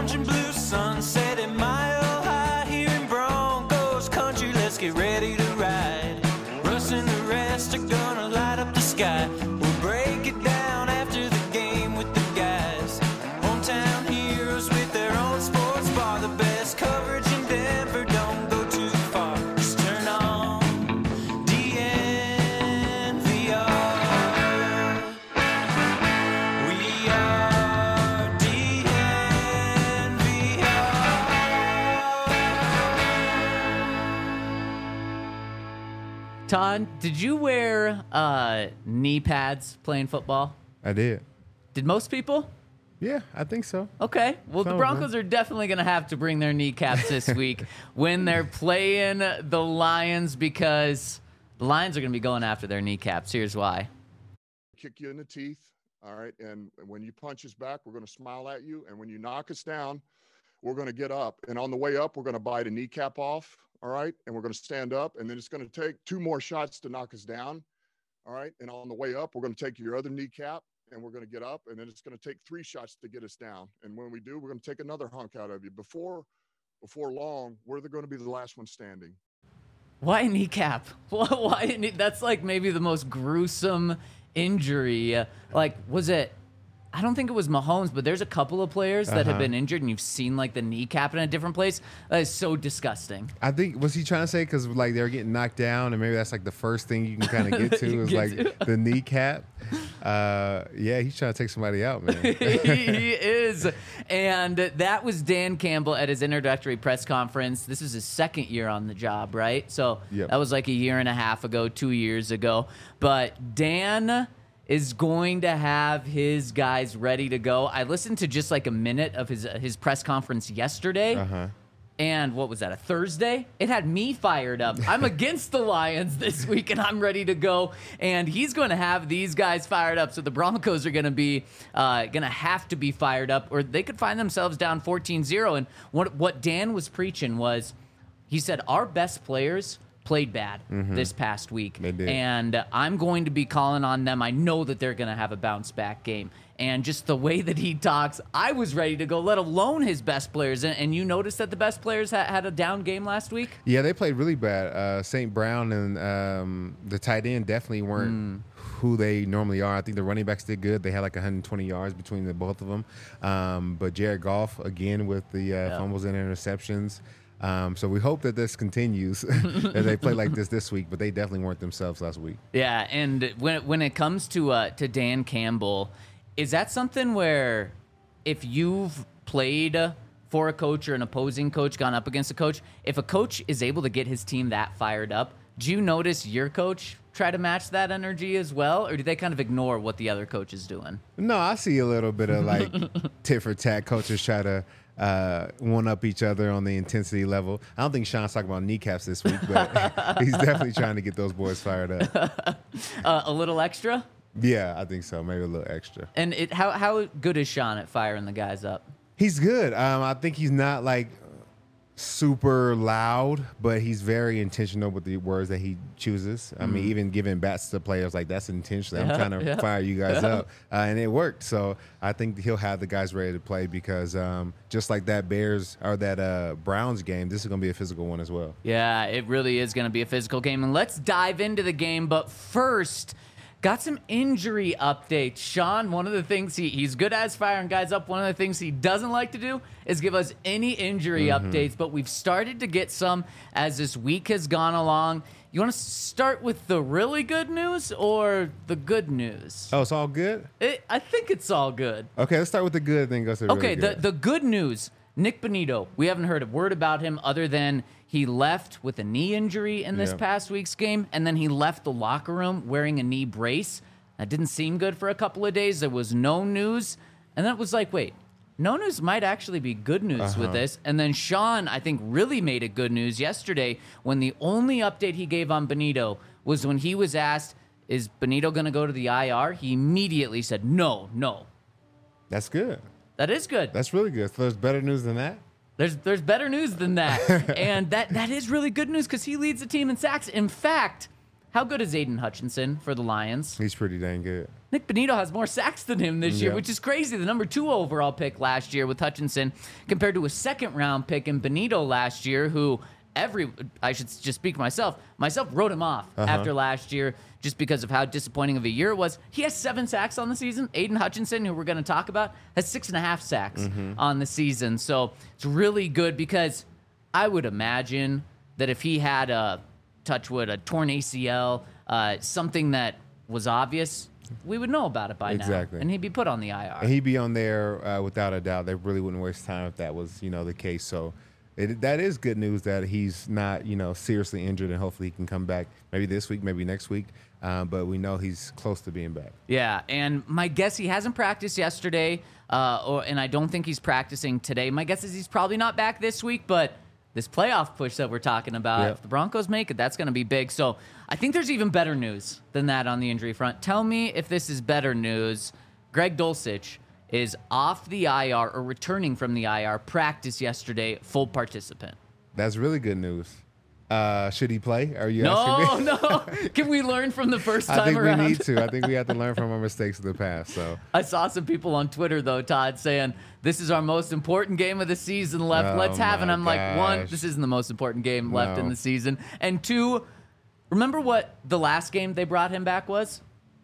orange and blue sunset at Mile High here in Broncos country. Let's get ready to ride. Russ and the rest are gonna light up the sky. We'll break it down after the game with the guys. Hometown heroes with their own sports bar. The best coverage in Denver, don't go too far. Just turn on DNVR. We are DNVR. Todd, did you wear knee pads playing football? I did. Did most people? Yeah, I think so. Okay. Well, Some the of Broncos are definitely going to have to bring their kneecaps this week when they're playing the Lions, because the Lions are going to be going after their kneecaps. Here's why. Kick you in the teeth, all right? And when you punch us back, we're going to smile at you. And when you knock us down, we're going to get up. And on the way up, we're going to bite a kneecap off, all right? And we're going to stand up. And then it's going to take 2 more shots to knock us down, all right? And on the way up, we're going to take your other kneecap, and we're going to get up. And then it's going to take 3 shots to get us down. And when we do, we're going to take another hunk out of you. Before long, we're going to be the last one standing. Why a kneecap? Why? That's like maybe the most gruesome injury. Like, was it? I don't think it was Mahomes, but there's a couple of players that have been injured, and you've seen like the kneecap in a different place. That is so disgusting. I think, was he trying to say because like they were getting knocked down, and maybe that's like the first thing you can kind of get to is like the kneecap. Yeah, he's trying to take somebody out, man. He is. And that was Dan Campbell at his introductory press conference. This is his second year on the job, right? So Yep. that was like a year and a half ago, 2 years ago. But Dan is going to have his guys ready to go. I listened to just like a minute of his press conference yesterday. And what was that, a Thursday? It had me fired up. I'm against the Lions this week, and I'm ready to go. And he's going to have these guys fired up. So the Broncos are going to be have to be fired up, or they could find themselves down 14-0. And what Dan was preaching was, he said, our best players played bad this past week. They did. And I'm going to be calling on them. I know that they're going to have a bounce back game. And just the way that he talks, I was ready to go, let alone his best players. And you noticed that the best players had a down game last week? Yeah, they played really bad. St. Brown and the tight end definitely weren't who they normally are. I think the running backs did good. They had like 120 yards between the both of them. But Jared Goff, again, with the fumbles and interceptions. So we hope that this continues as they play like this week, but they definitely weren't themselves last week. Yeah, and when it comes to Dan Campbell, is that something where if you've played for a coach or an opposing coach, gone up against a coach, if a coach is able to get his team that fired up, do you notice your coach try to match that energy as well, or do they kind of ignore what the other coach is doing? No, I see a little bit of like tit for tat. Coaches try to one-up each other on the intensity level. I don't think Sean's talking about kneecaps this week, but he's definitely trying to get those boys fired up. A little extra? Yeah, I think so. Maybe a little extra. And how good is Sean at firing the guys up? He's good. I think he's not like super loud, but he's very intentional with the words that he chooses. I mean, even giving bats to players, like, that's intentional. I'm trying to fire you guys up. And it worked. So I think he'll have the guys ready to play because just like that Bears or that Browns game, this is going to be a physical one as well. Yeah, it really is going to be a physical game. And let's dive into the game. But first, got some injury updates. Sean, one of the things he's good at is firing guys up. One of the things he doesn't like to do is give us any injury updates, but we've started to get some as this week has gone along. You want to start with the really good news or the good news? Oh, it's all good? I think it's all good. Okay, let's start with the good, then go to the Okay, really good. the good news, Nick Bonito, we haven't heard a word about him other than he left with a knee injury in this past week's game, and then he left the locker room wearing a knee brace. That didn't seem good for a couple of days. There was no news, and then it was like, wait, no news might actually be good news with this. And then Sean, I think, really made it good news yesterday when the only update he gave on Bonito was when he was asked, is Bonito going to go to the IR? He immediately said, no. That's good. That is good. That's really good. So there's better news than that? There's better news than that. And that is really good news because he leads the team in sacks. In fact, how good is Aiden Hutchinson for the Lions? He's pretty dang good. Nick Bonito has more sacks than him this year, Yeah. which is crazy. The number 2 overall pick last year with Hutchinson compared to a second-round pick in Bonito last year, who I should just speak for myself wrote him off after last year just because of how disappointing of a year it was. He has 7 sacks on the season. Aiden Hutchinson, who we're going to talk about, has 6.5 sacks on the season. So it's really good because I would imagine that if he had a torn ACL, something that was obvious, we would know about it by now. Exactly. And he'd be put on the IR. And he'd be on there without a doubt. They really wouldn't waste time if that was, the case. So that is good news that he's not, seriously injured, and hopefully he can come back maybe this week, maybe next week. But we know he's close to being back. Yeah, and my guess, he hasn't practiced yesterday, and I don't think he's practicing today. My guess is he's probably not back this week, but this playoff push that we're talking about, if the Broncos make it, that's going to be big. So I think there's even better news than that on the injury front. Tell me if this is better news. Greg Dulcich is off the IR or returning from the IR, practice yesterday, full participant. That's really good news. Should he play? Are you asking me? No. Can we learn from the first time I think around? we need to. I think we have to learn from our mistakes of the past. So I saw some people on Twitter, though, Todd, saying this is our most important game of the season left. Let's have it. And I'm like, 1, this isn't the most important game left in the season. And 2, remember what the last game they brought him back was?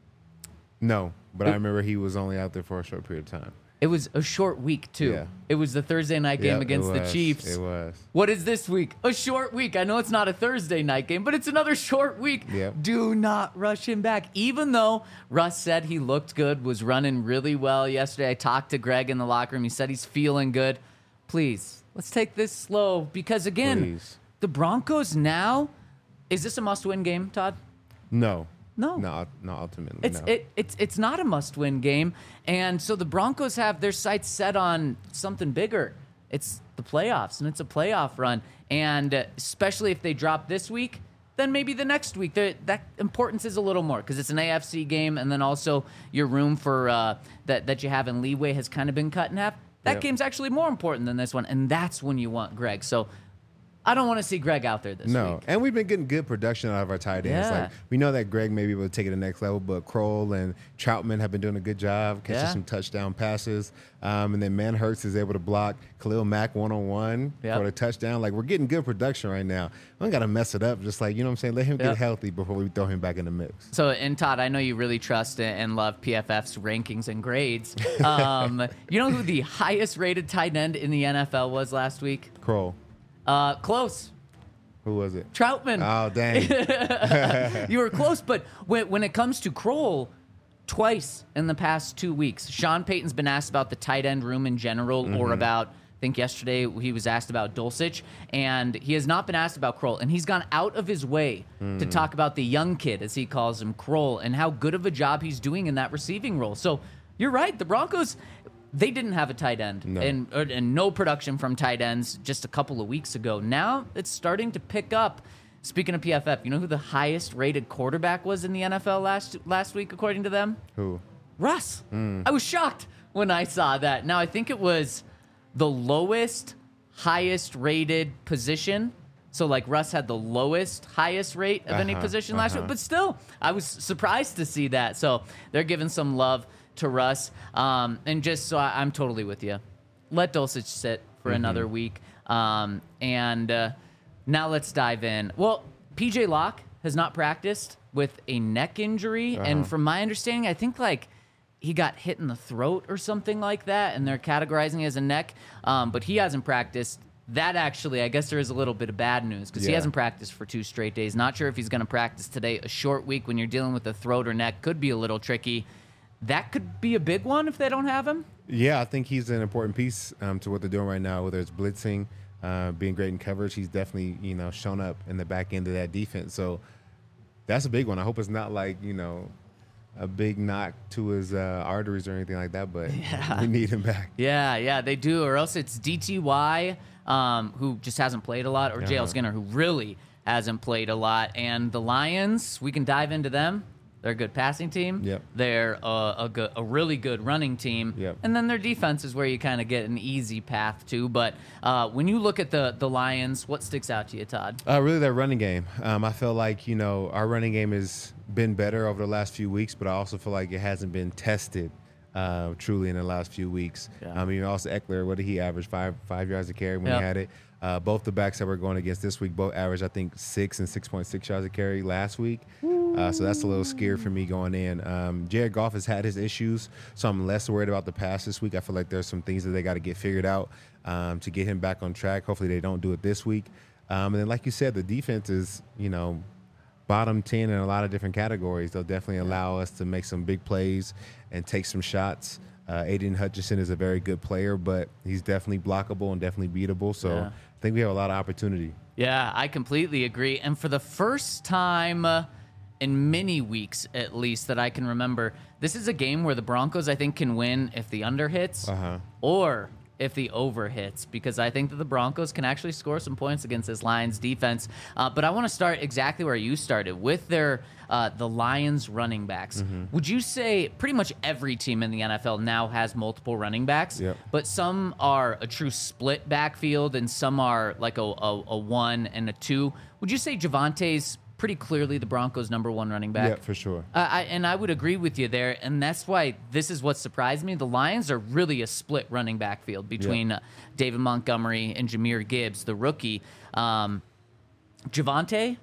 No, but I remember he was only out there for a short period of time. It was a short week, too. Yeah. It was the Thursday night game against the Chiefs. It was. What is this week? A short week. I know it's not a Thursday night game, but it's another short week. Yep. Do not rush him back. Even though Russ said he looked good, was running really well yesterday. I talked to Greg in the locker room. He said he's feeling good. Please, let's take this slow because, again, the Broncos now, is this a must-win game, Todd? No. No, ultimately. It's not a must-win game, and so the Broncos have their sights set on something bigger. It's the playoffs, and it's a playoff run, and especially if they drop this week, then maybe the next week. That importance is a little more because it's an AFC game, and then also your room for that you have in leeway has kind of been cut in half. That game's actually more important than this one, and that's when you want Greg. So I don't want to see Greg out there this week. And we've been getting good production out of our tight ends. Yeah. Like we know that Greg may be able to take it to the next level, but Kroll and Troutman have been doing a good job catching some touchdown passes. And then Manhurts is able to block Khalil Mack one-on-one for the touchdown. Like we're getting good production right now. We don't got to mess it up. Just like, let him get healthy before we throw him back in the mix. So, and Todd, I know you really trust and love PFF's rankings and grades. You know who the highest rated tight end in the NFL was last week? Kroll. Close. Who was it? Troutman. Oh, dang. You were close, but when it comes to Kroll, twice in the past 2 weeks, Sean Payton's been asked about the tight end room in general or about, I think yesterday he was asked about Dulcich, and he has not been asked about Kroll, and he's gone out of his way to talk about the young kid, as he calls him, Kroll, and how good of a job he's doing in that receiving role. So you're right, the Broncos, they didn't have a tight end and no production from tight ends just a couple of weeks ago. Now it's starting to pick up. Speaking of PFF, you know who the highest rated quarterback was in the NFL last week, according to them? Who? Russ. I was shocked when I saw that. Now, I think it was the lowest, highest rated position. So, like, Russ had the lowest, highest rate of any position last week. But still, I was surprised to see that. So, they're giving some love to Russ. And just so I'm totally with you. Let Dulcich sit for another week. Now let's dive in. Well, PJ Locke has not practiced with a neck injury. And from my understanding, I think like he got hit in the throat or something like that. And they're categorizing it as a neck. But he hasn't practiced. That actually, I guess there is a little bit of bad news because he hasn't practiced for 2 straight days. Not sure if he's going to practice today. A short week when you're dealing with a throat or neck could be a little tricky. That could be a big one if they don't have him. Yeah, I think he's an important piece to what they're doing right now, whether it's blitzing, being great in coverage. He's definitely, shown up in the back end of that defense. So that's a big one. I hope it's not like, a big knock to his arteries or anything like that, but we need him back. Yeah, they do. Or else it's DTY, who just hasn't played a lot, or JL Skinner, who really hasn't played a lot. And the Lions, we can dive into them. They're a good passing team. Yep. They're a really good running team. Yep. And then their defense is where you kind of get an easy path to. But when you look at the Lions, what sticks out to you, Todd? Really, their running game. I feel like, our running game has been better over the last few weeks, but I also feel like it hasn't been tested truly in the last few weeks. Yeah. Also Eckler, what did he average? Five yards a carry when Yep. he had it. Both the backs that we're going against this week both averaged, I think, 6 and 6.6 yards a carry last week. So that's a little scary for me going in. Jared Goff has had his issues, so I'm less worried about the pass this week. I feel like there's some things that they got to get figured out to get him back on track. Hopefully they don't do it this week. And then, like you said, the defense is, bottom 10 in a lot of different categories. They'll definitely allow us to make some big plays and take some shots. Aiden Hutchinson is a very good player, but he's definitely blockable and definitely beatable. So I think we have a lot of opportunity. Yeah, I completely agree. And for the first time in many weeks, at least, that I can remember, this is a game where the Broncos, I think, can win if the under hits or if the over hits, because I think that the Broncos can actually score some points against this Lions defense. But I want to start exactly where you started with the Lions running backs. Would you say pretty much every team in the NFL now has multiple running backs? Yep. But some are a true split backfield and some are like a 1 and a 2. Would you say Javante's pretty clearly the Broncos' number 1 running back? Yeah, for sure. I would agree with you there, and that's why this is what surprised me. The Lions are really a split running backfield between David Montgomery and Jahmyr Gibbs, the rookie. Javonte,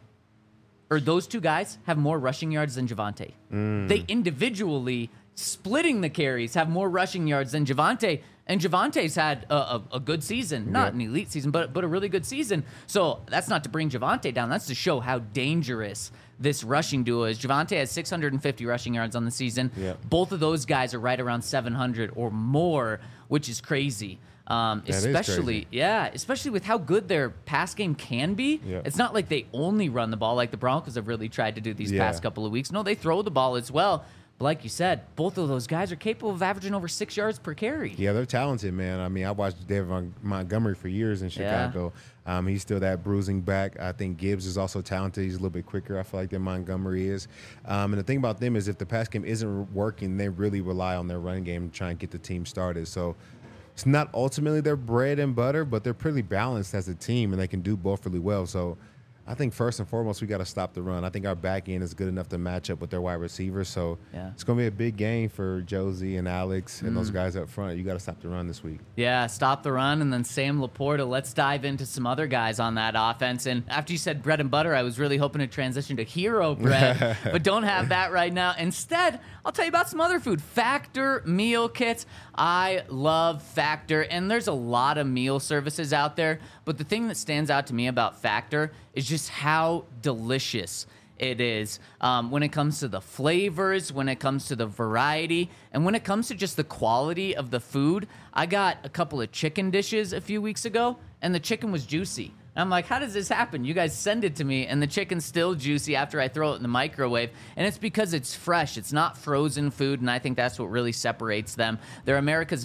or those two guys, have more rushing yards than Javonte. They individually, splitting the carries, have more rushing yards than Javonte. And Javante's had a good season, not an elite season, but a really good season. So that's not to bring Javonte down. That's to show how dangerous this rushing duo is. Javonte has 650 rushing yards on the season. Both of those guys are right around 700 or more, which is crazy. Especially with how good their pass game can be. It's not like they only run the ball like the Broncos have really tried to do these past couple of weeks. No, they throw the ball as well. But like you said, both of those guys are capable of averaging over 6 yards per carry. Yeah, they're talented, man. I mean, I watched David Montgomery for years in Chicago. He's still that bruising back. I think Gibbs is also talented. He's a little bit quicker, I feel like, than Montgomery is. And the thing about them is if the pass game isn't working, they really rely on their running game to try and get the team started. So it's not ultimately their bread and butter, but they're pretty balanced as a team, and they can do both really well. So I think first and foremost, we got to stop the run. I think our back end is good enough to match up with their wide receivers. So it's going to be a big game for Josie and Alex and those guys up front. You got to stop the run this week. Yeah, stop the run. And then Sam Laporta. Let's dive into some other guys on that offense. And after you said bread and butter, I was really hoping to transition to hero bread, but don't have that right now. Instead, I'll tell you about some other food. Factor meal kits. I love Factor, and there's a lot of meal services out there, but the thing that stands out to me about Factor is just how delicious it is when it comes to the flavors, when it comes to the variety, and when it comes to just the quality of the food. I got a couple of chicken dishes a few weeks ago, and the chicken was juicy. And I'm like, how does this happen? You guys send it to me, and the chicken's still juicy after I throw it in the microwave. And it's because it's fresh. It's not frozen food, and I think that's what really separates them. They're America's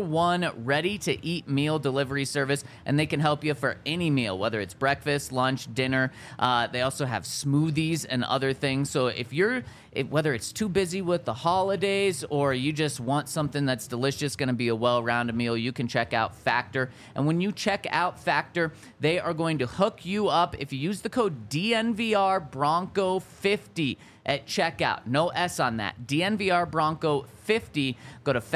#1 ready-to-eat meal delivery service, and they can help you for any meal, whether it's breakfast, lunch, dinner. They also have smoothies and other things. So whether it's too busy with the holidays or you just want something that's delicious, going to be a well-rounded meal, you can check out Factor. And when you check out Factor, they are going to hook you up if you use the code DNVR Bronco 50 at checkout. No S on that. DNVR Bronco 50. Go to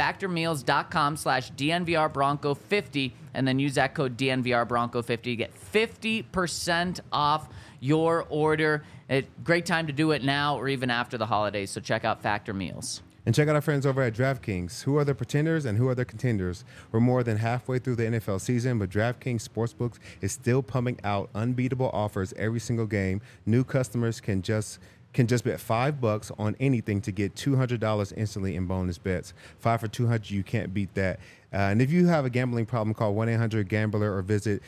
factormeals.com/DNVR Bronco 50 and then use that code DNVR Bronco 50 to get 50% off your order. Great time to do it now or even after the holidays. So check out Factor Meals. And check out our friends over at DraftKings. Who are the pretenders and who are the contenders? We're more than halfway through the NFL season, but DraftKings Sportsbooks is still pumping out unbeatable offers every single game. New customers can just bet $5 on anything to get $200 instantly in bonus bets. 5 for $200, you can't beat that. And if you have a gambling problem, call 1-800-GAMBLER or visit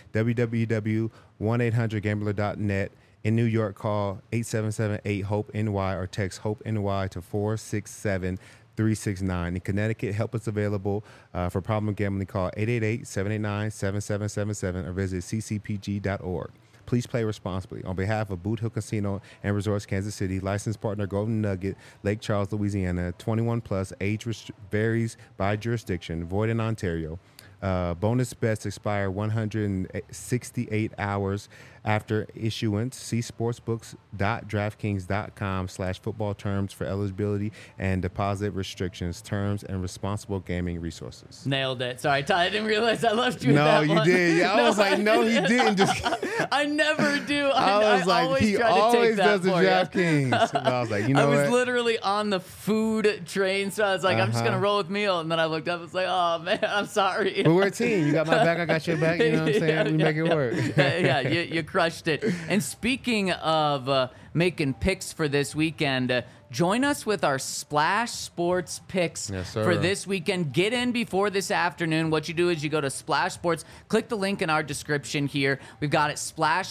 www.1800gambler.net. In New York, call 877-8-HOPE-NY or text HOPE-NY to 467-369. In Connecticut, help is available for problem gambling. Call 888-789-7777 or visit ccpg.org. Please play responsibly. On behalf of Boot Hill Casino and Resorts, Kansas City, licensed partner Golden Nugget, Lake Charles, Louisiana, 21 plus, age varies by jurisdiction, void in Ontario. Bonus bets expire 168 hours after issuance. See sportsbooks.draftkings.com/football terms for eligibility and deposit restrictions, terms, and responsible gaming resources. Nailed it. Sorry, Ty, I didn't realize I left you with No, that you one. did. I was like, no, he didn't. Just I never do. I was like, always he try to take always that does the for you. DraftKings. And I was like, you know I was what? literally on the food train, so I was like, I'm just gonna roll with meal. And then I looked up and was like, oh man, I'm sorry. But we're a team. You got my back, I got your back. You know what I'm saying? We make it work. Yeah, you crushed it. And speaking of making picks for this weekend, join us with our Splash Sports picks for this weekend. Get in before this afternoon. What you do is you go to Splash Sports, click the link in our description here. We've got it,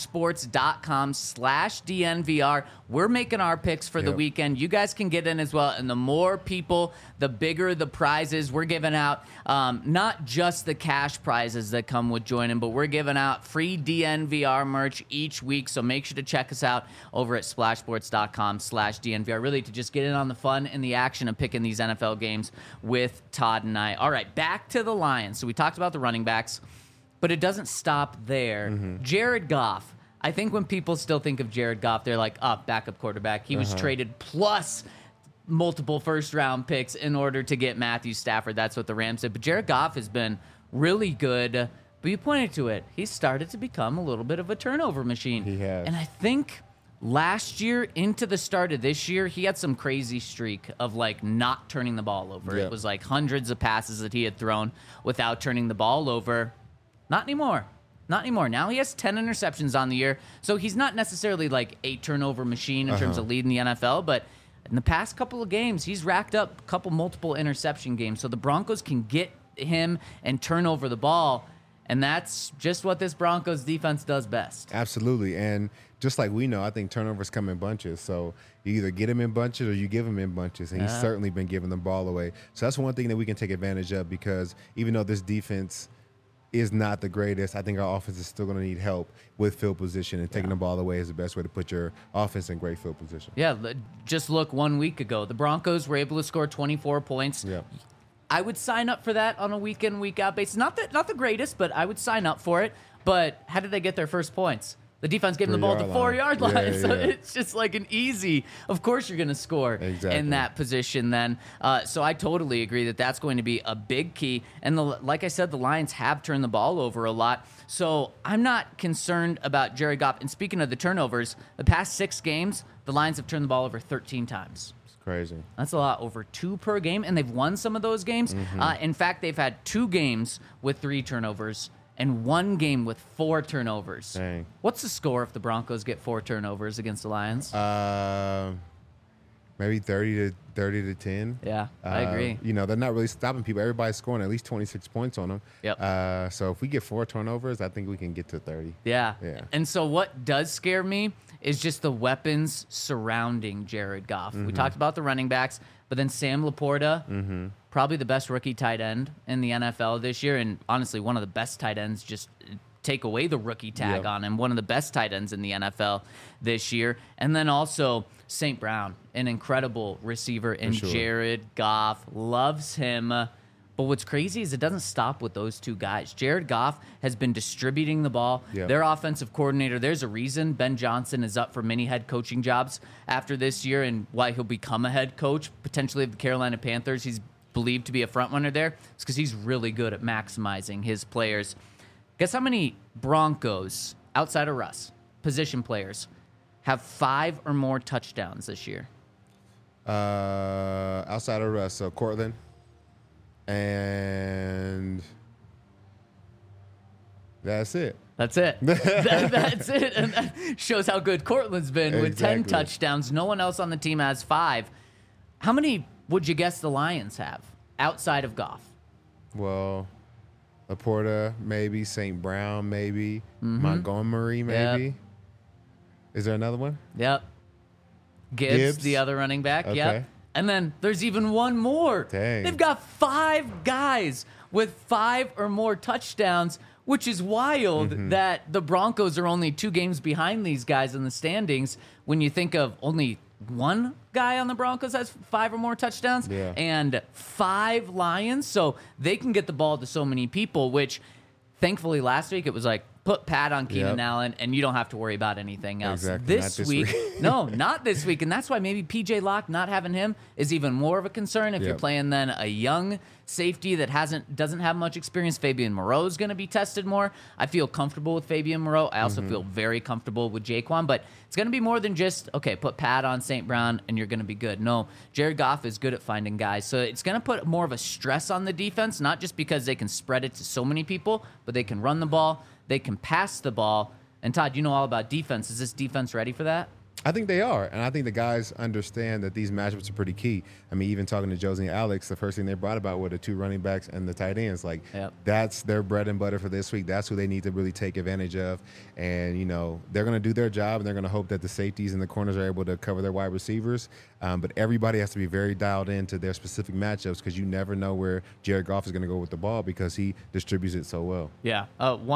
splashsports.com/DNVR. We're making our picks for the weekend. You guys can get in as well. And the more people, the bigger the prizes. We're giving out not just the cash prizes that come with joining, but we're giving out free DNVR merch each week. So make sure to check us out over at splashsports.com/DNVR. Really to just get in on the fun and the action of picking these NFL games with Todd and I. All right, back to the Lions. So we talked about the running backs, but it doesn't stop there. Jared Goff. I think when people still think of Jared Goff, they're like, backup quarterback. He was traded plus multiple first-round picks in order to get Matthew Stafford. That's what the Rams did. But Jared Goff has been really good. But you pointed to it. He started to become a little bit of a turnover machine. He has. And I think last year into the start of this year, he had some crazy streak of like not turning the ball over. Yep. It was like hundreds of passes that he had thrown without turning the ball over. Not anymore. Not anymore. Now he has 10 interceptions on the year. So he's not necessarily like a turnover machine in terms of leading the NFL, but in the past couple of games, he's racked up a couple multiple interception games. So the Broncos can get him and turn over the ball. And that's just what this Broncos defense does best. Absolutely. And just like we know, I think turnovers come in bunches. So you either get him in bunches or you give him in bunches. And he's certainly been giving the ball away. So that's one thing that we can take advantage of, because even though this defense is not the greatest, I think our offense is still going to need help with field position, and taking the ball away is the best way to put your offense in great field position. Yeah, just look 1 week ago. The Broncos were able to score 24 points. Yeah. I would sign up for that on a week-in, week-out basis. Not the greatest, but I would sign up for it. But how did they get their first points? The defense gave them the ball at the 4-yard line. Yeah, So yeah. it's just like an easy, of course you're going to score in that position then. So I totally agree that that's going to be a big key. And like I said, the Lions have turned the ball over a lot. So I'm not concerned about Jared Goff. And speaking of the turnovers, the past 6 games, the Lions have turned the ball over 13 times. Crazy. That's a lot, over 2 per game, and they've won some of those games. In fact, they've had 2 games with 3 turnovers and 1 game with 4 turnovers. Dang. What's the score if the Broncos get 4 turnovers against the Lions? Maybe 30 to 10. Yeah, I agree. You know, they're not really stopping people. Everybody's scoring at least 26 points on them. Yep. So if we get 4 turnovers, I think we can get to 30. Yeah. Yeah. And so what does scare me is just the weapons surrounding Jared Goff. We talked about the running backs, but then Sam Laporta, probably the best rookie tight end in the NFL this year, and honestly, one of the best tight ends. Just take away the rookie tag on him. One of the best tight ends in the NFL this year. And then also St. Brown, an incredible receiver, and Jared Goff loves him. But what's crazy is it doesn't stop with those 2 guys. Jared Goff has been distributing the ball. Yep. Their offensive coordinator, there's a reason Ben Johnson is up for many head coaching jobs after this year, and why he'll become a head coach, potentially of the Carolina Panthers. He's believed to be a front runner there. It's because he's really good at maximizing his players. Guess how many Broncos, outside of Russ, position players, have 5 or more touchdowns this year? Outside of Russ, so Cortland. And that's it. That's it. That's it. And that shows how good Cortland's been with 10 touchdowns. No one else on the team has 5. How many would you guess the Lions have outside of Goff? Well, Laporta, maybe. St. Brown, maybe. Montgomery, maybe. Yep. Is there another one? Yep. Gibbs, the other running back. Okay. Yep. And then there's even one more. Dang. They've got 5 guys with 5 or more touchdowns, which is wild that the Broncos are only 2 games behind these guys in the standings when you think of only one guy on the Broncos has 5 or more touchdowns and 5 Lions. So they can get the ball to so many people, which thankfully last week it was like, put Pat on Keenan Allen, and you don't have to worry about anything else. Exactly. This week, no, not this week. And that's why maybe P.J. Locke, not having him, is even more of a concern. If you're playing then a young safety that doesn't have much experience, Fabian Moreau is going to be tested more. I feel comfortable with Fabian Moreau. I also feel very comfortable with Jaquan. But it's going to be more than just, okay, put Pat on St. Brown, and you're going to be good. No, Jared Goff is good at finding guys. So it's going to put more of a stress on the defense, not just because they can spread it to so many people, but they can run the ball. They can pass the ball. And Todd, you know all about defense. Is this defense ready for that? I think they are. And I think the guys understand that these matchups are pretty key. I mean, even talking to Josie and Alex, the first thing they brought about were the 2 running backs and the tight ends. Like, that's their bread and butter for this week. That's who they need to really take advantage of. And, you know, they're going to do their job, and they're going to hope that the safeties and the corners are able to cover their wide receivers. But everybody has to be very dialed into their specific matchups because you never know where Jared Goff is going to go with the ball because he distributes it so well. Yeah,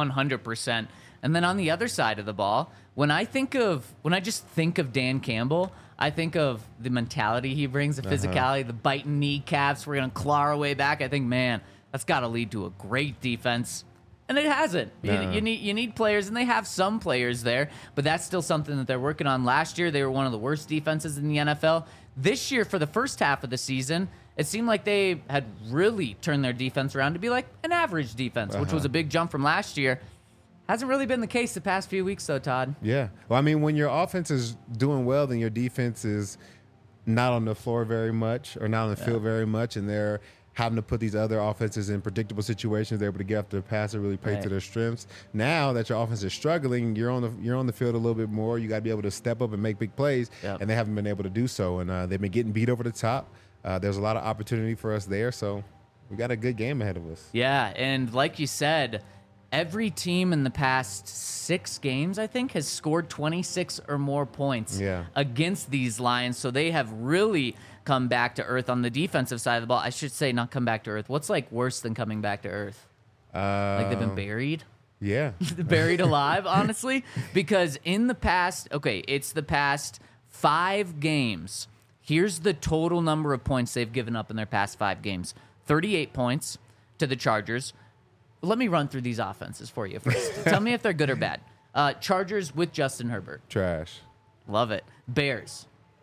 100%. And then on the other side of the ball, when I just think of Dan Campbell, I think of the mentality he brings, the physicality, the biting kneecaps. We're going to claw our way back. I think, man, that's got to lead to a great defense. And it hasn't. You need players, and they have some players there, but that's still something that they're working on. Last year, they were one of the worst defenses in the NFL. This year, for the first half of the season, it seemed like they had really turned their defense around to be like an average defense, which was a big jump from last year. Hasn't really been the case the past few weeks, though, Todd. Yeah. Well, I mean, when your offense is doing well, then your defense is not on the floor very much or not on the field very much, and they're having to put these other offenses in predictable situations. They're able to get after the pass and really play to their strengths. Now that your offense is struggling, you're on the field a little bit more. You got to be able to step up and make big plays, and they haven't been able to do so. And they've been getting beat over the top. There's a lot of opportunity for us there, so we got a good game ahead of us. Yeah, and like you said, every team in the past 6 games, I think, has scored 26 or more points against these Lions. So they have really come back to earth on the defensive side of the ball. I should say not come back to earth. What's like worse than coming back to earth? Like they've been buried? Yeah. Buried alive, honestly. Because in the past, it's the past 5 games. Here's the total number of points they've given up in their past 5 games. 38 points to the Chargers. Let me run through these offenses for you first. Tell me if they're good or bad. Chargers with Justin Herbert. Trash. Love it. Bears.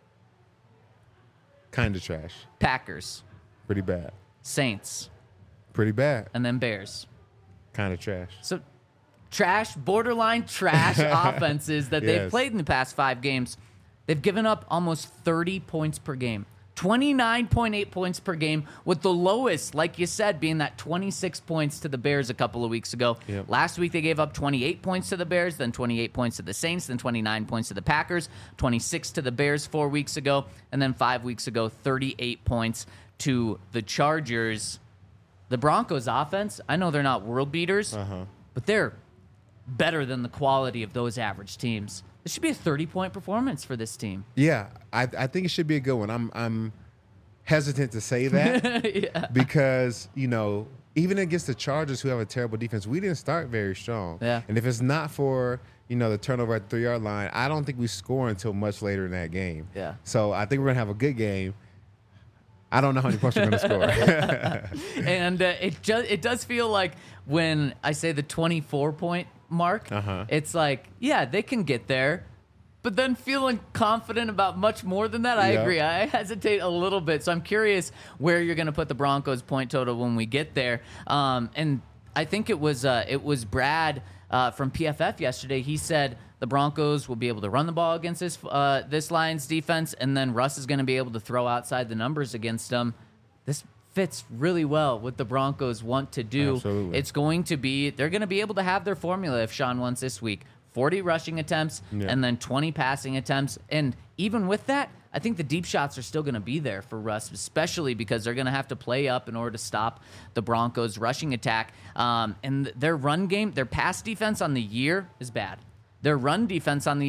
Kind of trash. Packers. Pretty bad. Saints. Pretty bad. And then Bears. Kind of trash. So trash, borderline trash offenses that they've played in the past 5 games. They've given up almost 30 points per game. 29.8 points per game, with the lowest, like you said, being that 26 points to the Bears a couple of weeks ago. Last week they gave up 28 points to the Bears, then 28 points to the Saints, then 29 points to the Packers, 26 to the Bears 4 weeks ago, and then 5 weeks ago, 38 points to the Chargers. The Broncos offense, I know they're not world beaters, but they're better than the quality of those average teams. It should be a 30-point performance for this team. Yeah, I think it should be a good one. I'm hesitant to say that because, you know, even against the Chargers, who have a terrible defense, we didn't start very strong. Yeah. And if it's not for, you know, the turnover at the 3-yard line, I don't think we score until much later in that game. Yeah. So I think we're going to have a good game. I don't know how many points we're going to score. And it does feel like when I say the 24-point mark, it's like, yeah, they can get there, but then feeling confident about much more than that. I agree. I hesitate a little bit, so I'm curious where you're going to put the Broncos point total when we get there. And I think it was Brad from PFF yesterday. He said the Broncos will be able to run the ball against this Lions defense, and then Russ is going to be able to throw outside the numbers against them. This fits really well what the Broncos want to do. Absolutely. It's going to be, they're going to be able to have their formula if Sean wants this week. 40 rushing attempts and then 20 passing attempts. And even with that, I think the deep shots are still going to be there for Russ, especially because they're going to have to play up in order to stop the Broncos' rushing attack. And their run game, their pass defense on the year is bad. Their run defense on the year,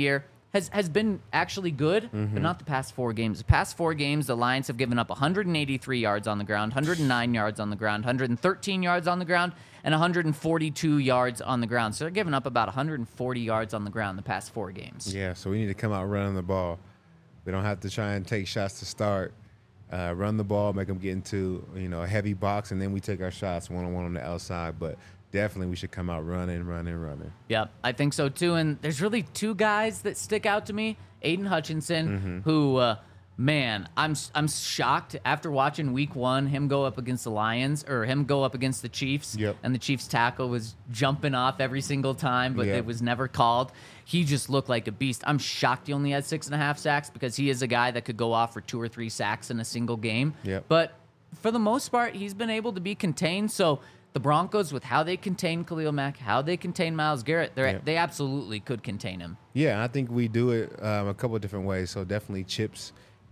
has been actually good, but not the past 4 games. The past 4 games, the Lions have given up 183 yards on the ground, 109 yards on the ground, 113 yards on the ground, and 142 yards on the ground. So they're giving up about 140 yards on the ground the past 4 games. Yeah, so we need to come out running the ball. We don't have to try and take shots to start. Run the ball, make them get into a heavy box, and then we take our shots one-on-one on the outside. But definitely we should come out running. Yep, I think so too. And there's really 2 guys that stick out to me. Aiden Hutchinson, who, man, I'm shocked after watching week 1, him go up against the Lions, or him go up against the Chiefs, and the Chiefs tackle was jumping off every single time, but it was never called. He just looked like a beast. I'm shocked he only had 6.5 sacks because he is a guy that could go off for 2 or 3 sacks in a single game. But for the most part, he's been able to be contained. So the Broncos, with how they contain Khalil Mack, how they contain Myles Garrett, they absolutely could contain him. Yeah, I think we do it a couple of different ways. So definitely chips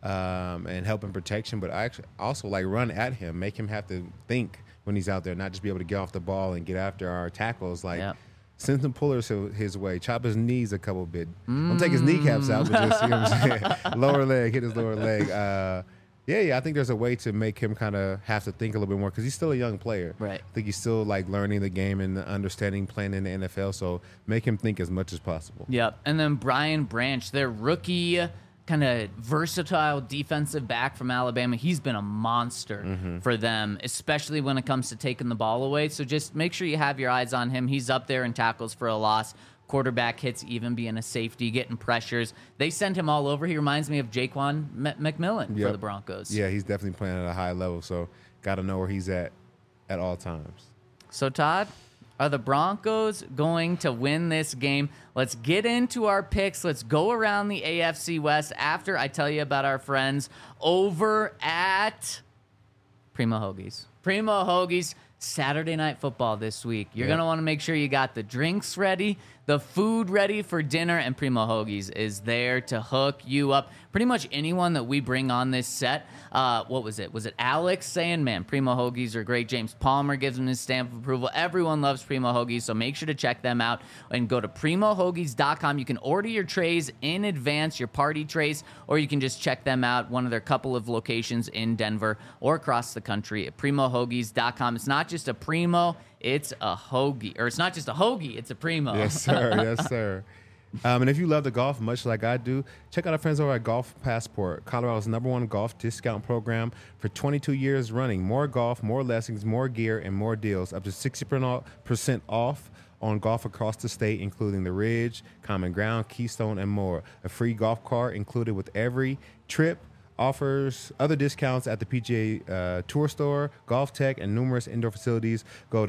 and help in protection, but I actually also like run at him, make him have to think when he's out there, not just be able to get off the ball and get after our tackles. Send some pullers his way, chop his knees a couple bit. Don't take his kneecaps out, but just, what I'm saying? Lower leg, hit his lower leg. I think there's a way to make him kind of have to think a little bit more because he's still a young player. Right. I think he's still like learning the game and understanding playing in the NFL, so make him think as much as possible. Yep. And then Brian Branch, their rookie kind of versatile defensive back from Alabama. He's been a monster for them, especially when it comes to taking the ball away. So just make sure you have your eyes on him. He's up there in tackles for a loss, quarterback hits, even being a safety, getting pressures. They send him all over. He reminds me of Jaquan McMillan for the Broncos. Yeah, he's definitely playing at a high level, so got to know where he's at all times. So, Todd, are the Broncos going to win this game? Let's get into our picks. Let's go around the AFC West after I tell you about our friends over at Primo Hoagies. Primo Hoagies, Saturday Night Football this week. You're going to want to make sure you got the drinks ready, the food ready for dinner, and Primo Hoagies is there to hook you up. Pretty much anyone that we bring on this set, what was it? Was it Alex saying, man, Primo Hoagies are great? James Palmer gives them his stamp of approval. Everyone loves Primo Hoagies, so make sure to check them out and go to PrimoHoagies.com. You can order your trays in advance, your party trays, or you can just check them out, one of their couple of locations in Denver or across the country at PrimoHoagies.com. It's not just a Primo, it's a hoagie. Or it's not just a hoagie, it's a Primo. Yes, sir. Yes, sir. And if you love the golf much like I do, check out our friends over at Golf Passport, Colorado's #1 golf discount program for 22 years running. More golf, more lessons, more gear, and more deals. Up to 60% off on golf across the state, including the Ridge, Common Ground, Keystone, and more. A free golf cart included with every trip. Offers other discounts at the PGA Tour Store, Golf Tech, and numerous indoor facilities. Go to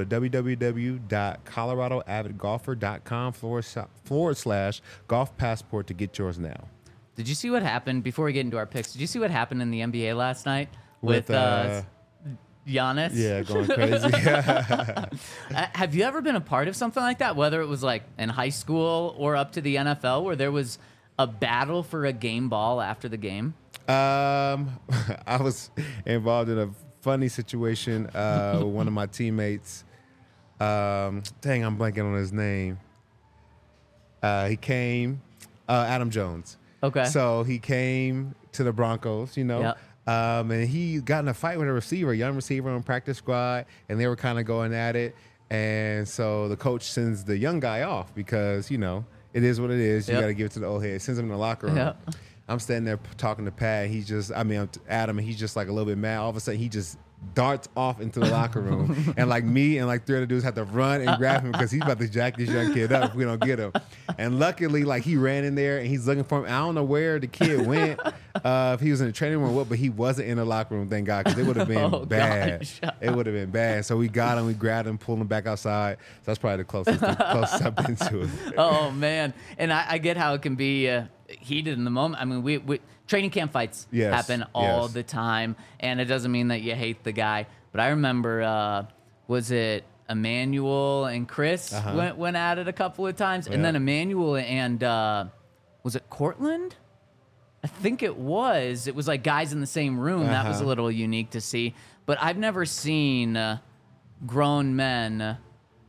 www.coloradoavidgolfer.com/golf passport to get yours now. Did you see what happened, before we get into our picks, did you see what happened in the NBA last night with Giannis? Yeah, going crazy. Have you ever been a part of something like that, whether it was like in high school or up to the NFL, where there was a battle for a game ball after the game? I was involved in a funny situation with one of my teammates. Dang, I'm blanking on his name. He came, Adam Jones. Okay. So he came to the Broncos, Yep. And he got in a fight with a young receiver on practice squad, and they were kind of going at it. And so the coach sends the young guy off because, it is what it is. You got to give it to the old head. Sends him in the locker room. Yep. I'm standing there talking to Pat. Adam, and he's just like a little bit mad. All of a sudden, he just darts off into the locker room. And like me and like 3 other dudes have to run and grab him because he's about to jack this young kid up if we don't get him. And luckily, like he ran in there and he's looking for him. I don't know where the kid went, if he was in the training room or what, but he wasn't in the locker room, thank God, because it would have been bad. Gosh. It would have been bad. So we got him, we grabbed him, pulled him back outside. So that's probably the closest I've been to it. Oh, man. And I get how it can be heated in the moment. I mean, we training camp fights happen all the time, and it doesn't mean that you hate the guy. But I remember, was it Emmanuel and Chris went at it a couple of times, and then Emmanuel and was it Cortland? I think it was. It was like guys in the same room. That was a little unique to see. But I've never seen grown men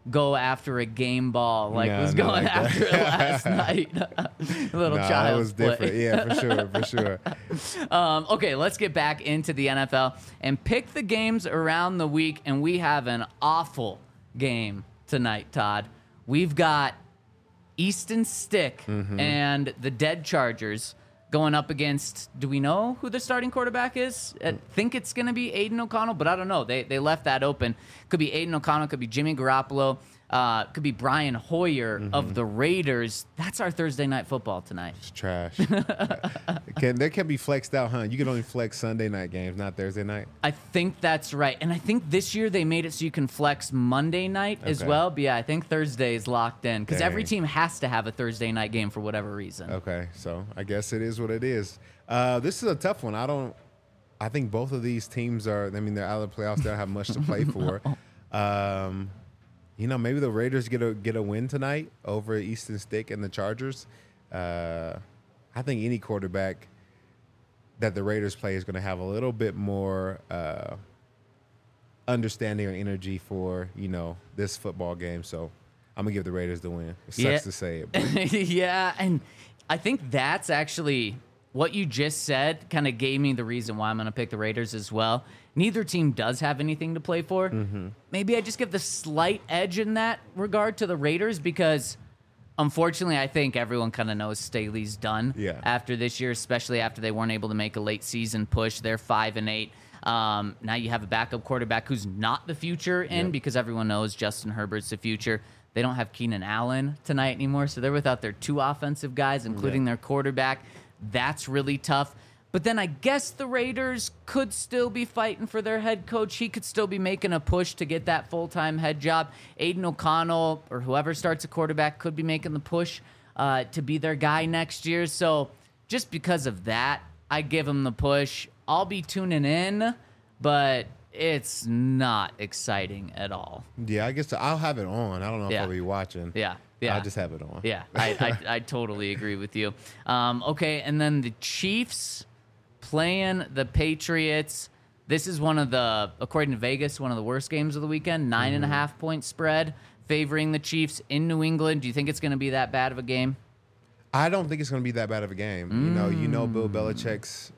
go after a game ball like No, was not going like that. after it last night. A little Nah, child it was play. different. Yeah, for sure. Okay, let's get back into the NFL and pick the games around the week. And we have an awful game tonight, Todd. We've got Easton Stick and the Dead Chargers going up against, do we know who the starting quarterback is? I think it's going to be Aiden O'Connell, but I don't know. They left that open. Could be Aiden O'Connell, could be Jimmy Garoppolo, could be Brian Hoyer of the Raiders. That's our Thursday night football tonight. It's trash. They can be flexed out, huh? You can only flex Sunday night games, not Thursday night. I think that's right. And I think this year they made it so you can flex Monday night as Okay. well. But yeah, I think Thursday is locked in because every Dang. team has to have a Thursday night game for whatever reason. Okay, so I guess it is what it is. This is a tough one. I think both of these teams are. I mean, they're out of the playoffs. They don't have much to play for. Maybe the Raiders get a win tonight over Easton Stick and the Chargers. I think any quarterback that the Raiders play is going to have a little bit more understanding or energy for this football game. So I'm gonna give the Raiders the win. It sucks to say it, but Yeah, and I think that's actually what you just said kind of gave me the reason why I'm going to pick the Raiders as well. Neither team does have anything to play for. Maybe I just give the slight edge in that regard to the Raiders because, unfortunately, I think everyone kind of knows Staley's done after this year, especially after they weren't able to make a late season push. They're 5-8. Now you have a backup quarterback who's not the future because everyone knows Justin Herbert's the future. They don't have Keenan Allen tonight anymore, so they're without their two offensive guys, including their quarterback. That's really tough. But then I guess the Raiders could still be fighting for their head coach. He could still be making a push to get that full-time head job. Aiden O'Connell or whoever starts a quarterback could be making the push to be their guy next year. So just because of that, I give him the push. I'll be tuning in, but it's not exciting at all. yeah, I guess I'll have it on. I don't know if I'll be watching. Yeah. I'll just have it on. Yeah, I totally agree with you. Okay, and then the Chiefs playing the Patriots. This is one of the, according to Vegas, one of the worst games of the weekend. 9.5 point spread favoring the Chiefs in New England. Do you think it's going to be that bad of a game? I don't think it's going to be that bad of a game. You know, Bill Belichick's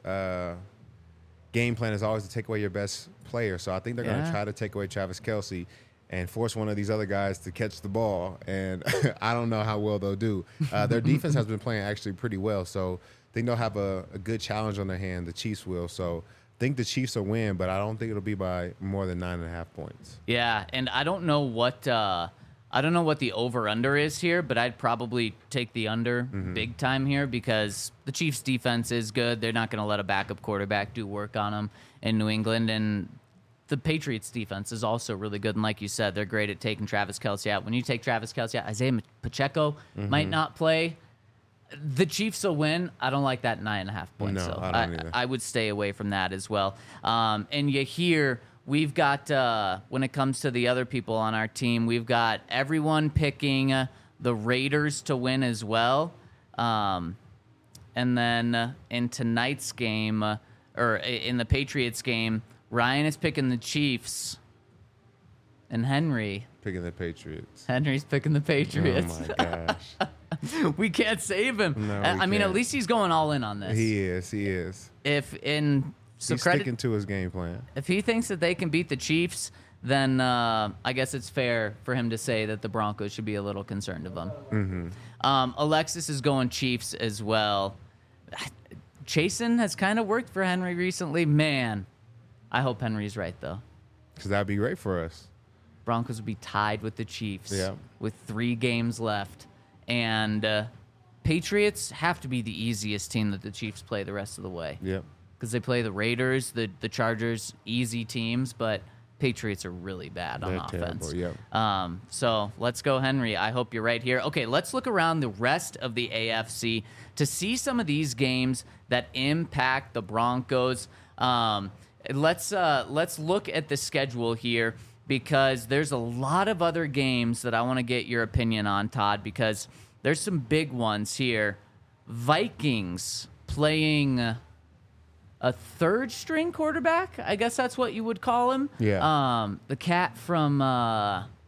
game plan is always to take away your best player. So I think they're going to try to take away Travis Kelce and force one of these other guys to catch the ball. And I don't know how well they'll do. Their defense has been playing actually pretty well. So I think they'll have a good challenge on their hand. The Chiefs will. So I think the Chiefs will win, but I don't think it'll be by more than 9.5 points. Yeah, and I don't know what the over-under is here, but I'd probably take the under big time here because the Chiefs' defense is good. They're not going to let a backup quarterback do work on them in New England, and the Patriots' defense is also really good. And like you said, they're great at taking Travis Kelce out. When you take Travis Kelce out, Isaiah Pacheco might not play. The Chiefs will win. I don't like that 9.5 points. No, so I don't either. I would stay away from that as well. And you hear we've got, when it comes to the other people on our team, we've got everyone picking the Raiders to win as well. And then in tonight's game, or in the Patriots game, Ryan is picking the Chiefs. And Henry's Picking the Patriots. picking the Patriots. Oh, my gosh. We can't save him. No, I mean, at can't. least he's going all in on this. He is. So He's credit, sticking to his game plan. if he thinks that they can beat the Chiefs, then I guess it's fair for him to say that the Broncos should be a little concerned of them. Alexis is going Chiefs as well. Chasen has kind of worked for Henry recently. Man, I hope Henry's right, though. Because that'd be great for us. Broncos would be tied with the Chiefs Yeah. with 3 games left. And Patriots have to be the easiest team that the Chiefs play the rest of the way. Yep. Because they play the Raiders, the Chargers, easy teams, but Patriots are really bad on They're offense. terrible, yep. So let's go, Henry. I hope you're right here. Okay, let's look around the rest of the AFC to see some of these games that impact the Broncos. Let's look at the schedule here because there's a lot of other games that I want to get your opinion on, Todd, because there's some big ones here. Vikings playing a third-string quarterback. I guess that's what you would call him. Yeah. The cat from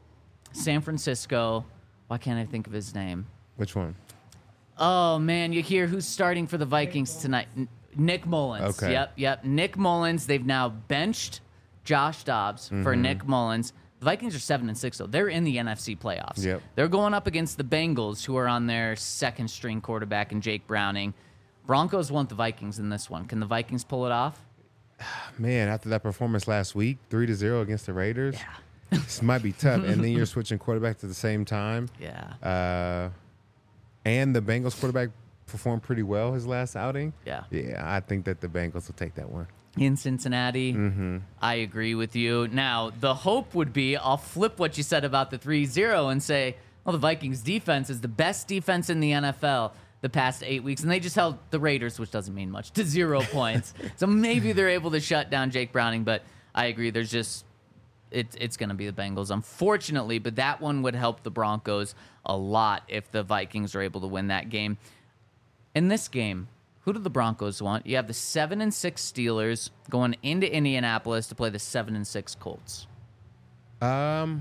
San Francisco. Why can't I think of his name? Which one? Oh, man, you hear who's starting for the Vikings tonight? Nick Mullins. Okay. Yep. Nick Mullins. They've now benched Josh Dobbs for Nick Mullins. The Vikings are 7-6, though. They're in the NFC playoffs. Yep. They're going up against the Bengals, who are on their second-string quarterback in Jake Browning. Broncos want the Vikings in this one. Can the Vikings pull it off? Man, after that performance last week, 3-0 against the Raiders, this might be tough. And then you're switching quarterbacks at the same time. Yeah. And the Bengals quarterback performed pretty well his last outing. Yeah. Yeah, I think that the Bengals will take that one. In Cincinnati, I agree with you. Now, the hope would be, I'll flip what you said about the 3-0 and say, well, the Vikings defense is the best defense in the NFL the past 8 weeks, and they just held the Raiders, which doesn't mean much, to 0 points. So maybe they're able to shut down Jake Browning, but I agree. There's just it's going to be the Bengals, unfortunately, but that one would help the Broncos a lot if the Vikings are able to win that game. In this game, who do the Broncos want? You have the 7-6 Steelers going into Indianapolis to play the 7-6 Colts. I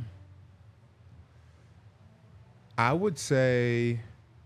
would say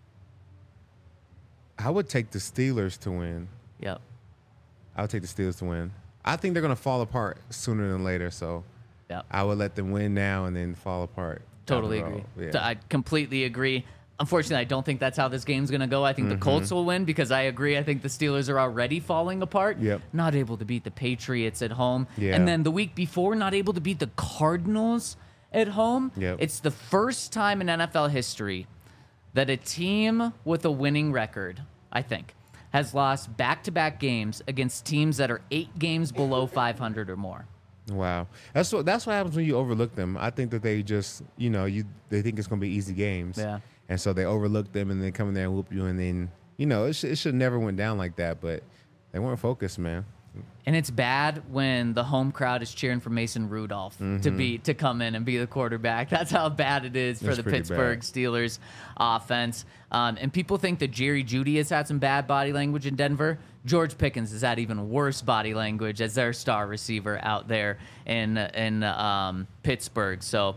I would take the Steelers to win. Yep. I would take the Steelers to win. I think they're going to fall apart sooner than later, so Yep. I would let them win now and then fall apart. down Totally the road. agree. Yeah. I completely agree. Unfortunately, I don't think that's how this game's going to go. I think the Colts will win because I agree. I think the Steelers are already falling apart. Yep. Not able to beat the Patriots at home. Yeah. And then the week before, not able to beat the Cardinals at home. Yep. It's the first time in NFL history that a team with a winning record, I think, has lost back-to-back games against teams that are 8 games below 500 or more. Wow, that's what happens when you overlook them. I think that they just, they think it's going to be easy games, Yeah. and so they overlook them and then come in there and whoop you, and then it should never went down like that, but they weren't focused, man. And it's bad when the home crowd is cheering for Mason Rudolph to come in and be the quarterback. That's how bad it is for That's the pretty Pittsburgh bad. Steelers offense. And people think that Jerry Jeudy has had some bad body language in Denver. George Pickens has had even worse body language as their star receiver out there in Pittsburgh. So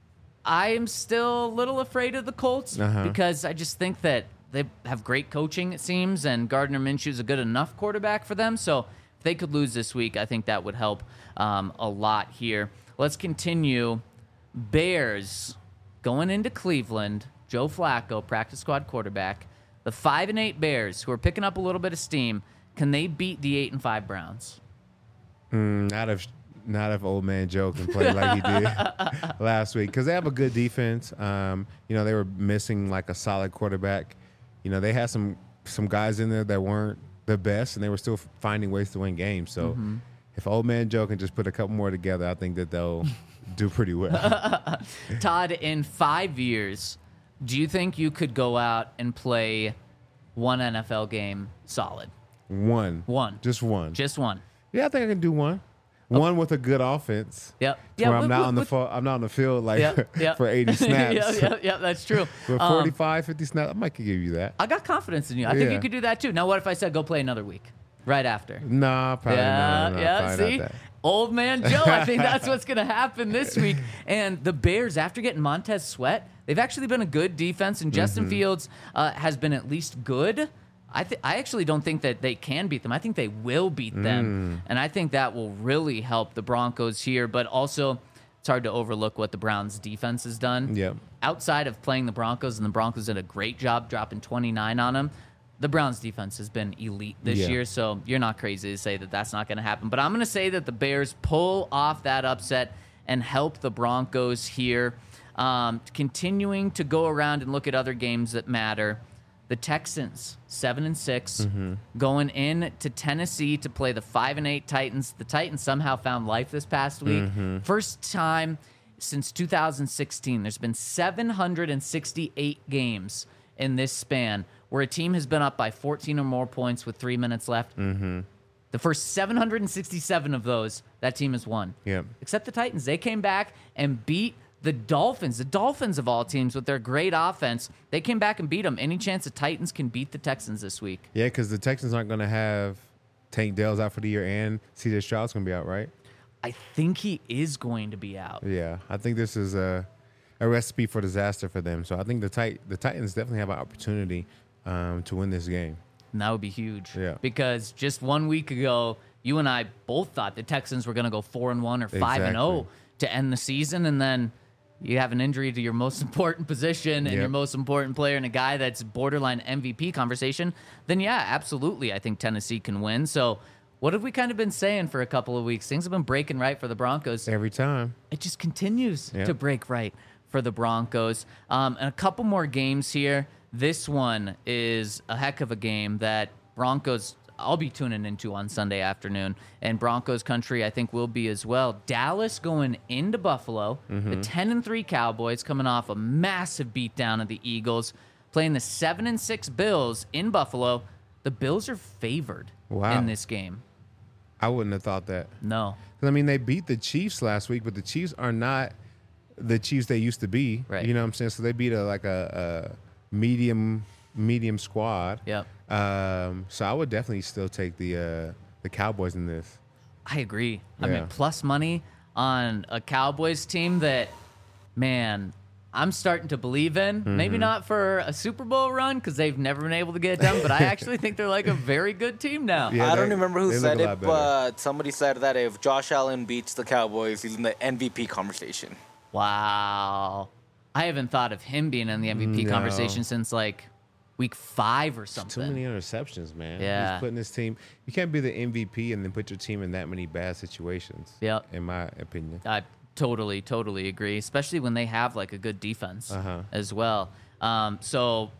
I am still a little afraid of the Colts because I just think that they have great coaching, it seems, and Gardner Minshew is a good enough quarterback for them. So if they could lose this week, I think that would help a lot here. Let's continue. Bears going into Cleveland. Joe Flacco, practice squad quarterback. The 5-8 Bears, who are picking up a little bit of steam, can they beat the 8-5 Browns? Not if old man Joe can play like he did last week, because they have a good defense. They were missing like a solid quarterback. They had some guys in there that weren't the best, and they were still finding ways to win games. So if old man Joe can just put a couple more together, I think that they'll do pretty well. Todd, in 5 years, do you think you could go out and play one NFL game solid? One. Just one. Yeah, I think I can do one. One with a good offense. Yep. Where I'm not on the field for 80 snaps. Yep, that's true. With 45, 50 snaps, I might could give you that. I got confidence in you. I think you could do that too. Now, what if I said go play another week right after? Nah, probably not. See? Not that. Old man Joe, I think that's what's going to happen this week. And the Bears, after getting Montez Sweat, they've actually been a good defense, and Justin Fields has been at least good. I actually don't think that they can beat them. I think they will beat them, and I think that will really help the Broncos here. But also, it's hard to overlook what the Browns' defense has done. Yep. Outside of playing the Broncos, and the Broncos did a great job dropping 29 on them, the Browns' defense has been elite this year, so you're not crazy to say that that's not going to happen. But I'm going to say that the Bears pull off that upset and help the Broncos here. Continuing to go around and look at other games that matter. The Texans, 7-6, going in to Tennessee to play the 5-8 Titans. The Titans somehow found life this past week. First time since 2016. There's been 768 games in this span where a team has been up by 14 or more points with 3 minutes left. The first 767 of those, that team has won. Yep. Except the Titans. They came back and beat the Dolphins. The Dolphins, of all teams, with their great offense, they came back and beat them. Any chance the Titans can beat the Texans this week? Yeah, because the Texans aren't going to have Tank Dell's out for the year, and C.J. Stroud's going to be out, right? I think he is going to be out. Yeah, I think this is a recipe for disaster for them. So I think the Titans definitely have an opportunity to win this game. And that would be huge. Yeah. Because just 1 week ago, you and I both thought the Texans were going to go 4-1 or 5-0 Exactly. to end the season, and then you have an injury to your most important position and your most important player and a guy that's borderline MVP conversation, then yeah, absolutely, I think Tennessee can win. So what have we kind of been saying for a couple of weeks? Things have been breaking right for the Broncos. Every time. It just continues to break right for the Broncos. And a couple more games here. This one is a heck of a game that Broncos, I'll be tuning into on Sunday afternoon, and Broncos country I think will be as well. Dallas going into Buffalo, the 10-3 Cowboys coming off a massive beatdown of the Eagles, playing the 7-6 Bills in Buffalo. The Bills are favored in this game. I wouldn't have thought that. No. I mean, they beat the Chiefs last week, but the Chiefs are not the Chiefs they used to be. Right. You know what I'm saying? So they beat a medium squad. Yep. So I would definitely still take the Cowboys in this. I agree. I Yeah. mean, plus money on a Cowboys team that, man, I'm starting to believe in. Maybe not for a Super Bowl run because they've never been able to get it done, but I actually think they're like a very good team now. Yeah, I don't remember who they said look a lot it, better. but somebody said that if Josh Allen beats the Cowboys, he's in the MVP conversation. Wow. I haven't thought of him being in the MVP No. conversation since like week 5 or Too something. many interceptions, man. Yeah. He's putting his team. You can't be the MVP and then put your team in that many bad situations. Yep. In my opinion. I totally agree, especially when they have like a good defense as well. So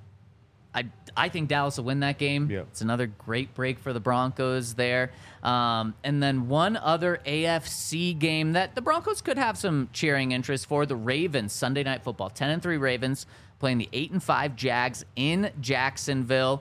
I think Dallas will win that game. Yep. It's another great break for the Broncos there. And then one other AFC game that the Broncos could have some cheering interest for, the Ravens, Sunday Night Football. 10-3 Ravens playing the 8-5 Jags in Jacksonville.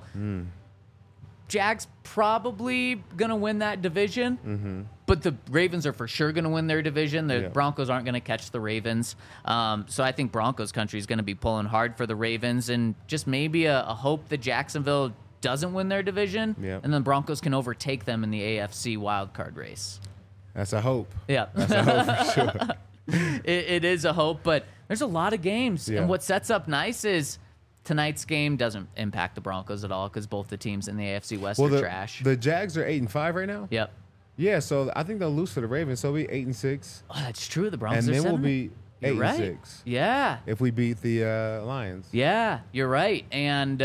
Jags probably going to win that division, but the Ravens are for sure going to win their division. The Broncos aren't going to catch the Ravens. So I think Broncos country is going to be pulling hard for the Ravens, and just maybe a hope that Jacksonville doesn't win their division, and then Broncos can overtake them in the AFC wildcard race. That's a hope. Yeah. That's a hope for sure. It is a hope, but there's a lot of games. Yeah. And what sets up nice is tonight's game doesn't impact the Broncos at all because both the teams in the AFC West are trash. The Jags are 8-5 right now. Yep. Yeah, so I think they'll lose to the Ravens. So we'll be 8-6, Oh, that's true. The Broncos and are then we'll 7. be You're 8-6 right. Yeah. if we beat the Lions. Yeah, you're right. And